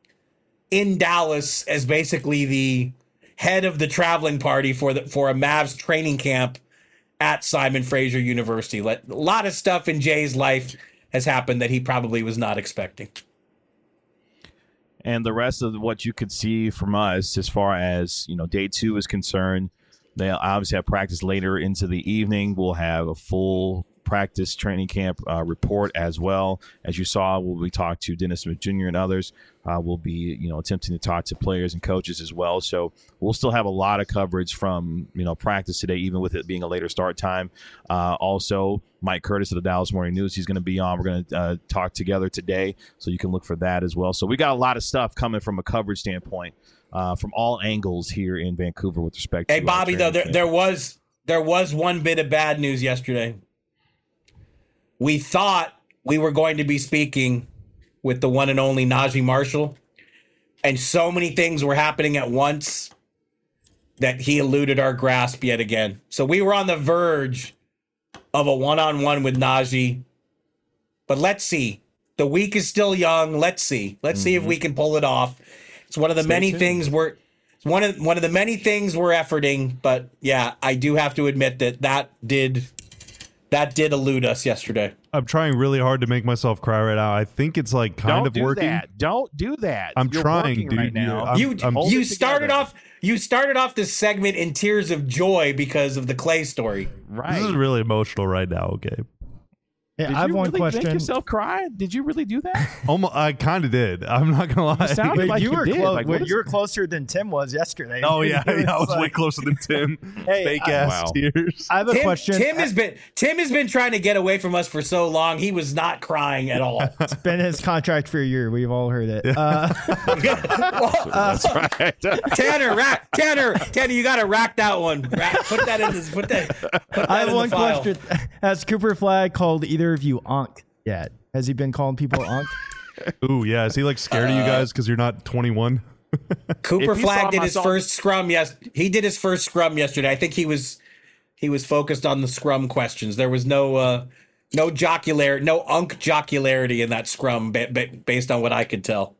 in Dallas as basically the head of the traveling party for the for a Mavs training camp at Simon Fraser University. Let, a lot of stuff in Jay's life has happened that he probably was not expecting. And the rest of what you could see from us as far as, you know, day two is concerned, they obviously have practice later into the evening. We'll have a full practice training camp uh, report as well. As you saw, we'll be talking to Dennis Smith Junior and others. Uh, we'll be, you know, attempting to talk to players and coaches as well. So we'll still have a lot of coverage from, you know, practice today, even with it being a later start time. Uh, also, Mike Curtis of the Dallas Morning News, he's going to be on. We're going to uh, talk together today, so you can look for that as well. So we got a lot of stuff coming from a coverage standpoint uh, from all angles here in Vancouver with respect to Hey, Bobby, though, there, training there camp. was there was one bit of bad news yesterday. we thought we were going to be speaking with the one and only Najee Marshall, and so many things were happening at once that he eluded our grasp yet again. So we were on the verge of a one-on-one with Najee, but let's see. The week is still young. Let's see. Let's mm-hmm. see if we can pull it off. It's one of the Stay many tuned. things we're it's one of one of the many things we're efforting. But yeah, I do have to admit that that did that did elude us yesterday. I'm trying really hard to make myself cry right now. I think it's like kind Don't of do working. That. Don't do that. I'm You're trying, dude. Right now. I'm, you I'm, you started off you started off this segment in tears of joy because of the Clay story. Right. This is really emotional right now. Okay. Yeah, did I have you one really question. Make yourself cry? Did you really do that? Almost, I kind of did. I'm not gonna lie. You sounded Wait, like you, you were did. close. Like, wait, is you were it? closer than Tim was yesterday. Oh yeah, It yeah I was like- way closer than Tim. Hey, Fake I- ass Wow. tears. I have a Tim, question. Tim has been Tim has been trying to get away from us for so long. He was not crying at all. It's been his contract for a year. We've all heard it. Uh, That's right. Tanner, rack, Tanner, Tanner, you got to rack that one. Rack, put that in this. Put that. Put that I have in one the file. question. Has Cooper Flag called either of you Unc yet? Has he been calling people Unc? Ooh, yeah. Is he like scared of you guys because you're not twenty-one? Cooper If you saw Flag did my his song- first scrum. Yes, he did his first scrum yesterday. I think he was he was focused on the scrum questions. There was no uh, no jocular, no unk jocularity in that scrum, ba- ba- based on what I could tell.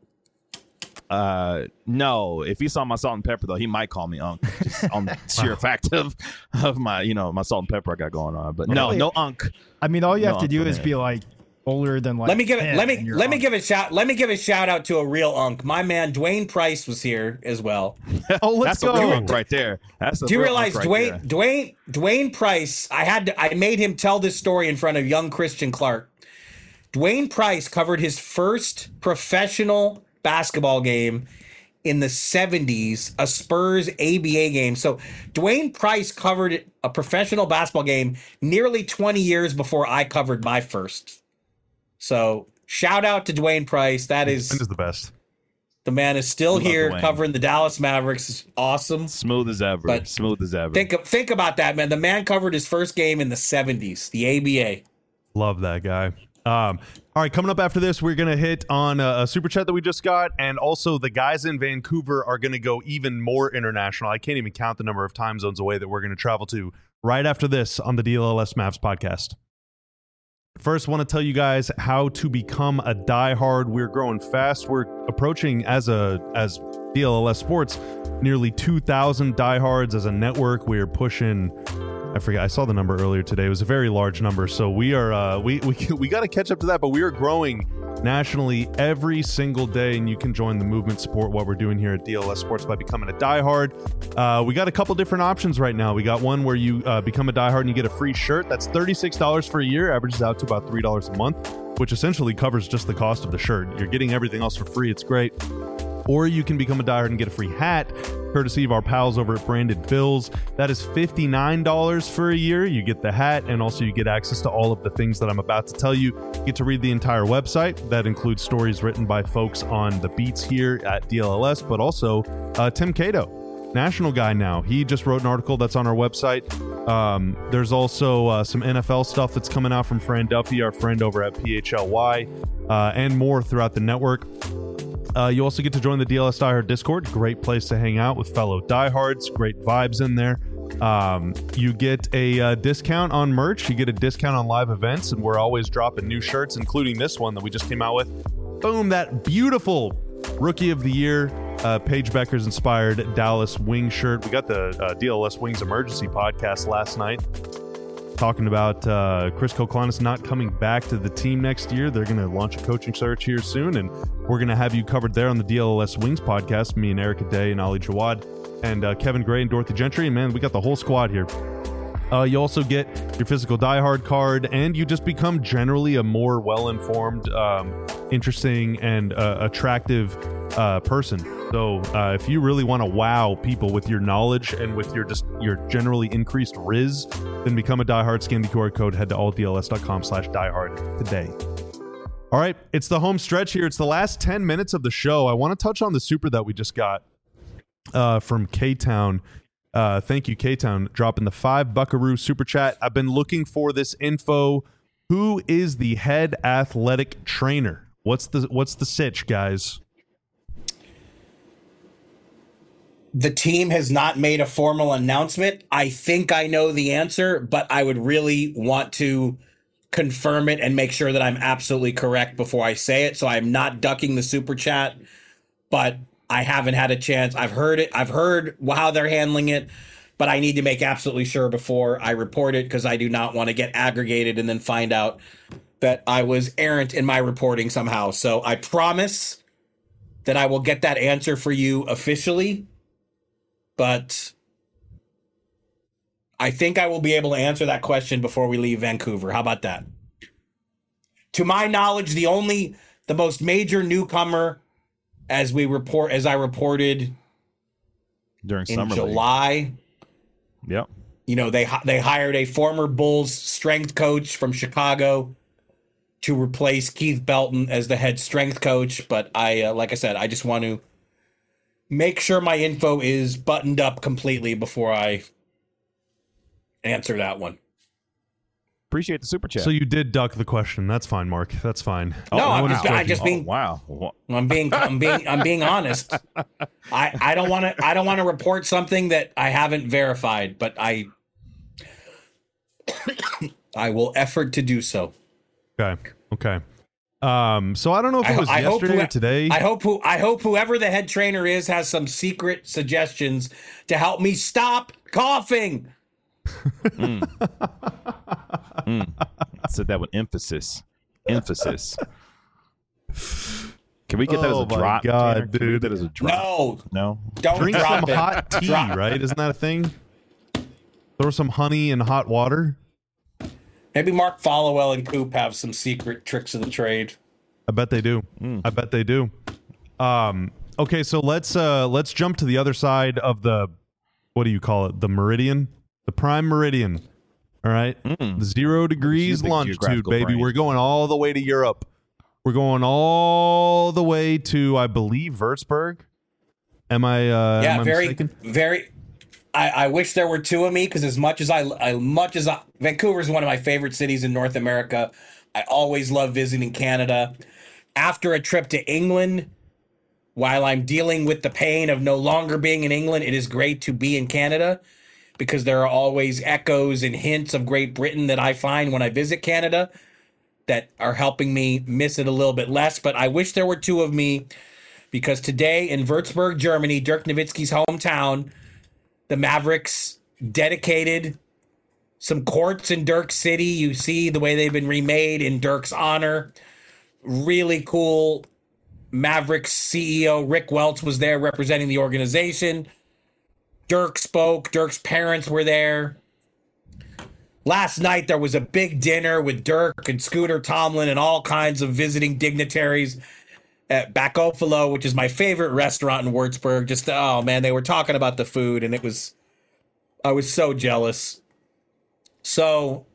Uh, no. If he saw my salt and pepper, though, he might call me Unc. Just on the sheer fact of of my, you know, my salt and pepper I got going on. But no, Really? no Unc. I mean, all you No, have to do Unc, is man. be like older than like. Let me give it. ten Let and me you're let me Unc. give a shout. Let me give a shout out to a real unk. My man Dwayne Price was here as well. Oh, let's That's go. a real Unc right there. That's a Do you real realize Unc right Dwayne there. Dwayne Dwayne Price? I had to, I made him tell this story in front of young Christian Clark. Dwayne Price covered his first professional basketball game in the seventies, a Spurs A B A game. So Dwayne Price covered a professional basketball game nearly twenty years before I covered my first. So shout out to Dwayne Price. That is Dwayne is the best. the man is still Love here Dwayne. covering the Dallas Mavericks. It's awesome. Smooth as ever. But Smooth as ever. Think think about that, man. The man covered his first game in the seventies, the A B A. Love that guy. Um, all right, coming up after this, we're going to hit on a, a super chat that we just got. And also, the guys in Vancouver are going to go even more international. I can't even count the number of time zones away that we're going to travel to right after this on the D L L S Mavs podcast. First, want to tell you guys how to become a diehard. We're growing fast. We're approaching, as a as D L L S Sports, nearly two thousand diehards as a network. We're pushing, I forget, I saw the number earlier today. It was a very large number. So we are, uh, we we we got to catch up to that. But we are growing nationally every single day, and you can join the movement, support what we're doing here at D L S Sports by becoming a diehard. Uh, we got a couple different options right now. We got one where you uh, become a diehard and you get a free shirt. That's thirty-six dollars for a year, averages out to about three dollars a month, which essentially covers just the cost of the shirt. You're getting everything else for free. It's great. Or you can become a diehard and get a free hat, courtesy of our pals over at Branded Bills. That is fifty-nine dollars for a year. You get the hat, and also you get access to all of the things that I'm about to tell you. You get to read the entire website. That includes stories written by folks on the beats here at D L L S, but also uh, Tim Cato, national guy now. He just wrote an article that's on our website. Um, there's also uh, some N F L stuff that's coming out from Fran Duffy, our friend over at P H L Y, uh, and more throughout the network. Uh, you also get to join the D L S Diehard Discord. Great place to hang out with fellow diehards. Great vibes in there. Um, you get a uh, discount on merch. You get a discount on live events, and we're always dropping new shirts, including this one that we just came out with. Boom, that beautiful Rookie of the Year, uh, Paige Becker's inspired Dallas Wing shirt. We got the uh, D L L S Wings Emergency podcast last night, talking about uh, Chris Koklanis not coming back to the team next year. They're going to launch a coaching search here soon, and we're going to have you covered there on the D L L S Wings podcast, me and Erica Day and Ali Jawad and uh, Kevin Gray and Dorothy Gentry. And man, we got the whole squad here. Uh, you also get your physical diehard card, and you just become generally a more well-informed, um, interesting, and uh, attractive uh, person. So uh, if you really want to wow people with your knowledge and with your just your generally increased riz, then become a diehard. Scan the Q R code, head to all D L S dot com slash diehard today. All right, it's the home stretch here. It's the last ten minutes of the show. I want to touch on the super that we just got uh, from K-Town. Uh, thank you, K-Town, dropping the five buckaroo super chat. I've been looking for this info Who is the head athletic trainer? What's the what's the sitch, guys? The team has not made a formal announcement. I think I know the answer, but I would really want to confirm it and make sure that I'm absolutely correct before I say it. So I'm not ducking the super chat, but I haven't had a chance. I've heard it. I've heard how they're handling it, but I need to make absolutely sure before I report it because I do not want to get aggregated and then find out that I was errant in my reporting somehow. So I promise that I will get that answer for you officially. But I think I will be able to answer that question before we leave Vancouver. How about that? To my knowledge, the only, the most major newcomer, as we report, as I reported during in summer July. League. Yep. You know, they they hired a former Bulls strength coach from Chicago to replace Keith Belton as the head strength coach. But I, uh, like I said, I just want to make sure my info is buttoned up completely before I answer that one. Appreciate the super chat. So you did duck the question. That's fine, Mark. That's fine. No, No I'm one is just, I joking. just being oh, wow. I'm being I'm being I'm being honest. I I don't want to I don't want to report something that I haven't verified, but I I will effort to do so. Okay. Okay. Um, so I don't know if it I, was I hope yesterday who- or today. I hope who I hope whoever the head trainer is has some secret suggestions to help me stop coughing. mm. mm. I said that with emphasis. Emphasis. Can we get that Oh as a my drop? God, Tanner? Can we dude. get that as a drop? No, No. don't Drink some drop it. hot tea, Drop- right? Isn't that a thing? Throw some honey in hot water. Maybe Mark Followell and Coop have some secret tricks of the trade. I bet they do. Mm. I bet they do. Um, okay, so let's uh, let's jump to the other side of the, what do you call it? The meridian, the prime meridian. All right, Mm. the zero degrees big longitude, geographical baby. brain. We're going all the way to Europe. We're going all the way to, I believe, Würzburg. Am I? Uh, Yeah, am I very, mistaken? very. I, I wish there were two of me because as much as I, as much as I, Vancouver is one of my favorite cities in North America. I always love visiting Canada. After a trip to England, while I'm dealing with the pain of no longer being in England, it is great to be in Canada because there are always echoes and hints of Great Britain that I find when I visit Canada that are helping me miss it a little bit less. But I wish there were two of me because today in Würzburg, Germany, Dirk Nowitzki's hometown, the Mavericks dedicated some courts in Dirk City. You see the way they've been remade in Dirk's honor. Really cool. Mavericks C E O Rick Welts was there representing the organization. Dirk spoke. Dirk's parents were there. Last night, there was a big dinner with Dirk and Scooter Tomlin and all kinds of visiting dignitaries at Bacofalo, which is my favorite restaurant in Würzburg. Just, oh man, they were talking about the food and it was, I was so jealous. So,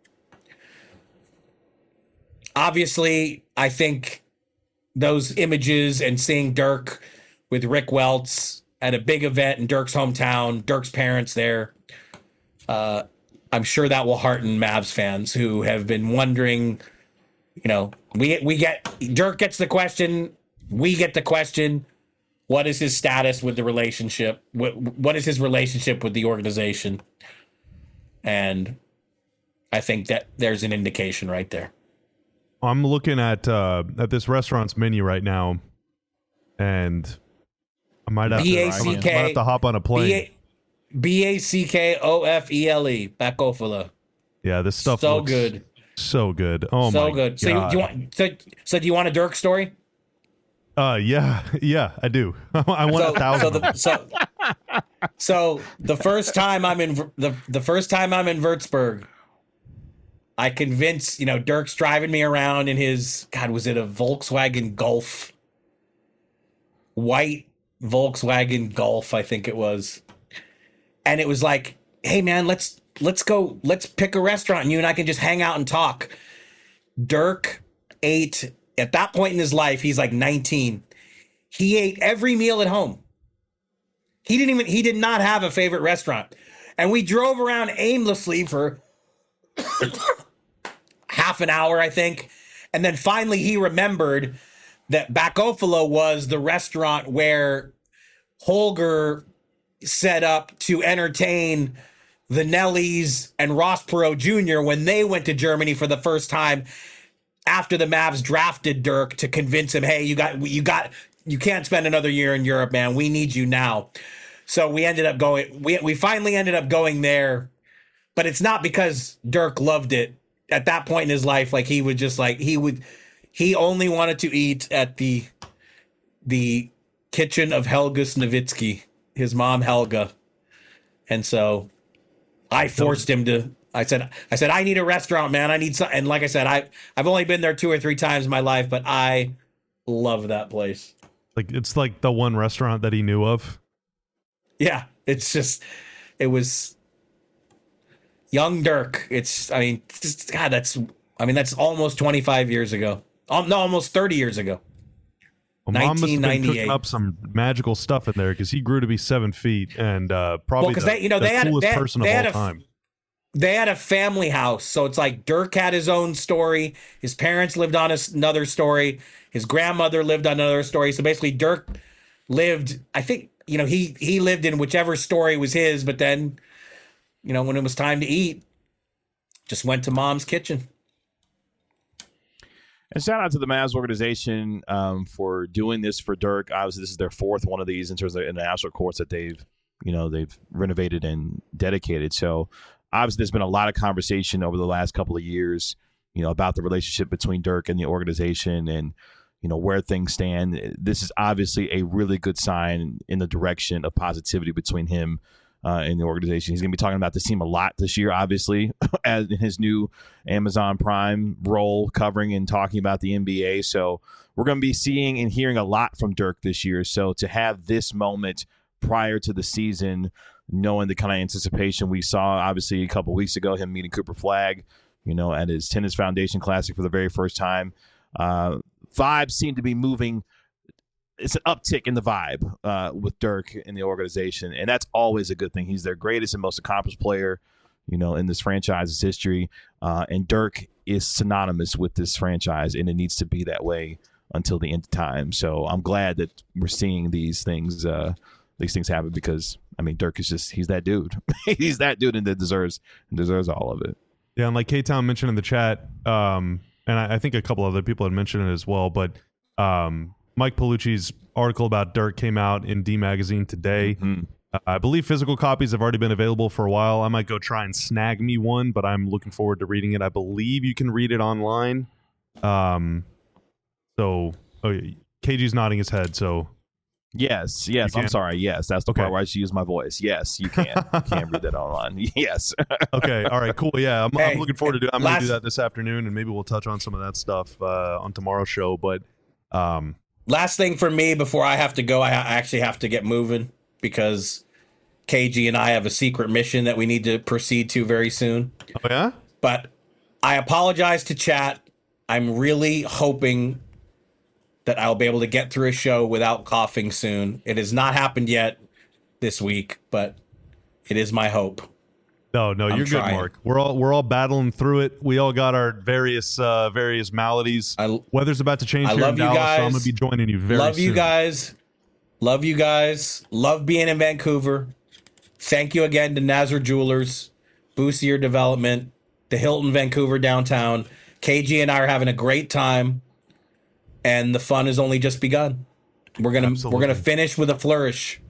obviously, I think those images and seeing Dirk with Rick Welts at a big event in Dirk's hometown, Dirk's parents there, uh, I'm sure that will hearten Mavs fans who have been wondering, you know, we we get Dirk gets the question, we get the question, what is his status with the relationship? What what is his relationship with the organization? And I think that there's an indication right there. I'm looking at uh, at this restaurant's menu right now, and I might have, B to, A I C might K have to hop on a plane. B A C K O F E L E, Bacofalo. Yeah, this stuff So looks good. so good. Oh So my good. So you, God. do you want so, so do you want a Dirk story? Uh, yeah, yeah, I do. I want So, a thousand. so of the them. so, so the first time I'm in Ver- the the first time I'm in Würzburg, I convince you know Dirk's driving me around in his God was it a Volkswagen Golf, white Volkswagen Golf I think it was, and it was like, hey man, let's let's go let's pick a restaurant and you and I can just hang out and talk. Dirk ate at that point in his life, he's like nineteen. He ate every meal at home. He didn't even, he did not have a favorite restaurant. And we drove around aimlessly for half an hour, I think. And then finally he remembered that Backofalo was the restaurant where Holger set up to entertain the Nellies and Ross Perot Junior when they went to Germany for the first time after the Mavs drafted Dirk to convince him, hey, you got, you got, you can't spend another year in Europe, man. We need you now. So we ended up going, we, we finally ended up going there, but it's not because Dirk loved it. At that point in his life, like he would just like, he would, he only wanted to eat at the, the kitchen of Helga Snavitsky, his mom, Helga. And so I forced him to, I said, I said, I need a restaurant, man. I need some. And like I said, I, I've only been there two or three times in my life, but I love that place. Like, it's like the one restaurant that he knew of. Yeah. It's just, it was young Dirk. It's, I mean, just, God, that's, I mean, that's almost twenty-five years ago. Um, no, almost thirty years ago. Well, Mom must have been nineteen ninety-eight. cooking up some magical stuff in there because he grew to be seven feet and uh, probably Well, the, they, you know, the they had, coolest they had, person they of had all a, time. They had a family house, so it's like Dirk had his own story. His parents lived on another story. His grandmother lived on another story. So basically, Dirk lived. I think you know he he lived in whichever story was his. But then, you know, when it was time to eat, just went to Mom's kitchen. And shout out to the Mavs organization um, for doing this for Dirk. Obviously, this is their fourth one of these in terms of international courts that they've, you know, they've renovated and dedicated. So obviously, there's been a lot of conversation over the last couple of years, you know, about the relationship between Dirk and the organization and, you know, where things stand. This is obviously a really good sign in the direction of positivity between him Uh, in the organization. He's going to be talking about this team a lot this year, obviously, as in his new Amazon Prime role covering and talking about the N B A. So we're going to be seeing and hearing a lot from Dirk this year. So to have this moment prior to the season, knowing the kind of anticipation we saw, obviously, a couple weeks ago, him meeting Cooper Flagg, you know, at his Tennis Foundation Classic for the very first time. Uh, vibes seem to be moving. It's an uptick in the vibe uh, with Dirk in the organization, and that's always a good thing. He's their greatest and most accomplished player, you know, in this franchise's history, uh, and Dirk is synonymous with this franchise, and it needs to be that way until the end of time. So I'm glad that we're seeing these things, uh, these things happen because, I mean, Dirk is just he's that dude. He's that dude, and that deserves and deserves all of it. Yeah, and like K-Town mentioned in the chat, um, and I, I think a couple other people had mentioned it as well, but. Um, Mike Paolucci's article about Dirk came out in D Magazine today. Mm-hmm. Uh, I believe physical copies have already been available for a while. I might go try and snag me one, but I'm looking forward to reading it. I believe you can read it online. Um, so oh, K G's nodding his head. So yes, yes. I'm sorry. Yes, that's the okay. part where I should use my voice. Yes, you can. You can read that online. Yes. Okay. All right. Cool. Yeah, I'm, hey, I'm looking forward to do. I'm last, going to do that this afternoon, and maybe we'll touch on some of that stuff uh, on tomorrow's show. But. Um, Last thing for me before I have to go, I actually have to get moving because K G and I have a secret mission that we need to proceed to very soon. Oh, yeah? But I apologize to chat. I'm really hoping that I'll be able to get through a show without coughing soon. It has not happened yet this week, but it is my hope. No, no, I'm you're trying. good, Mark. We're all we're all battling through it. We all got our various uh, various maladies. I, Weather's about to change I here love in you Dallas, guys. so I'm gonna be joining you very love soon. you guys. Love you guys. Love being in Vancouver. Thank you again to Nazar Jewelers, Boostier Development, the Hilton Vancouver downtown. K G and I are having a great time, and the fun has only just begun. We're gonna Absolutely. we're gonna finish with a flourish.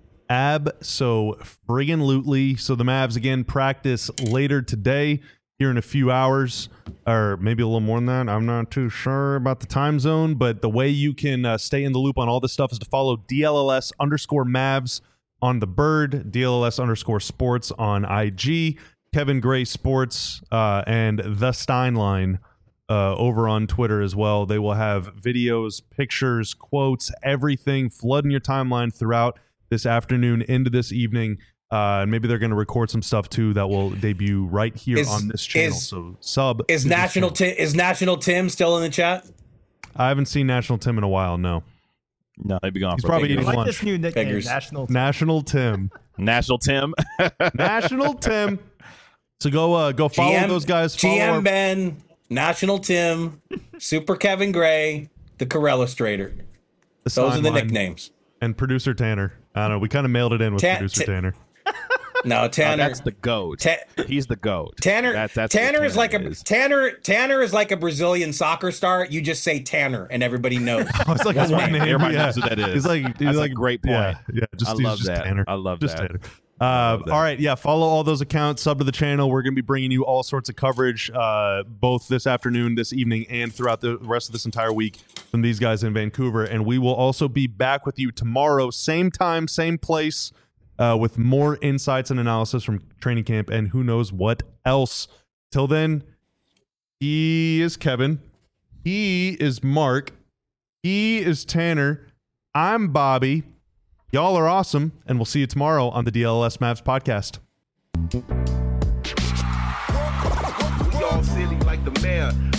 Ab so friggin' lootly. So the Mavs again practice later today here in a few hours, or maybe a little more than that. I'm not too sure about the time zone, but the way you can uh, stay in the loop on all this stuff is to follow D L L S underscore Mavs on the Bird, D L L S underscore Sports on I G, Kevin Gray Sports, uh, and the Steinline uh, over on Twitter as well. They will have videos, pictures, quotes, everything flooding your timeline throughout this afternoon into this evening, uh, and maybe they're going to record some stuff too that will debut right here Is- on this channel. is- so sub Is to this National channel. Ti- is National Tim still in the chat? I haven't seen National Tim in a while. No, No, they'd be gone He's for probably a big I eating like lunch. this new nickname, Beggars. National. National Tim, National Tim. National Tim. So go, uh, go G follow M those guys. Follow G M our- Ben, National Tim, Super Kevin Gray, the Corellustrator. The Those are the sideline. nicknames. And producer Tanner. I don't know. We kind of mailed it in with Ta- producer ta- Tanner. No, Uh, Tanner. that's the goat. Ta- He's the goat. Tanner. That- that's Tanner what is like a is. Tanner. Tanner is like a Brazilian soccer star. You just say Tanner, and everybody knows. Oh, it's like his That's nickname. right. Everybody yeah. knows who that is. He's like, he's That's a like great point. Yeah, yeah. Just, I he's love just that. Tanner. I love just that. Tanner. Uh, that. all right, yeah. Follow all those accounts. Sub to the channel. We're going to be bringing you all sorts of coverage, uh, both this afternoon, this evening, and throughout the rest of this entire week from these guys in Vancouver. And we will also be back with you tomorrow, same time, same place, uh, with more insights and analysis from training camp and who knows what else. Till then, he is Kevin. He is Mark. He is Tanner. I'm Bobby. Y'all are awesome, and we'll see you tomorrow on the D L S Mavs podcast. We all silly like the mayor.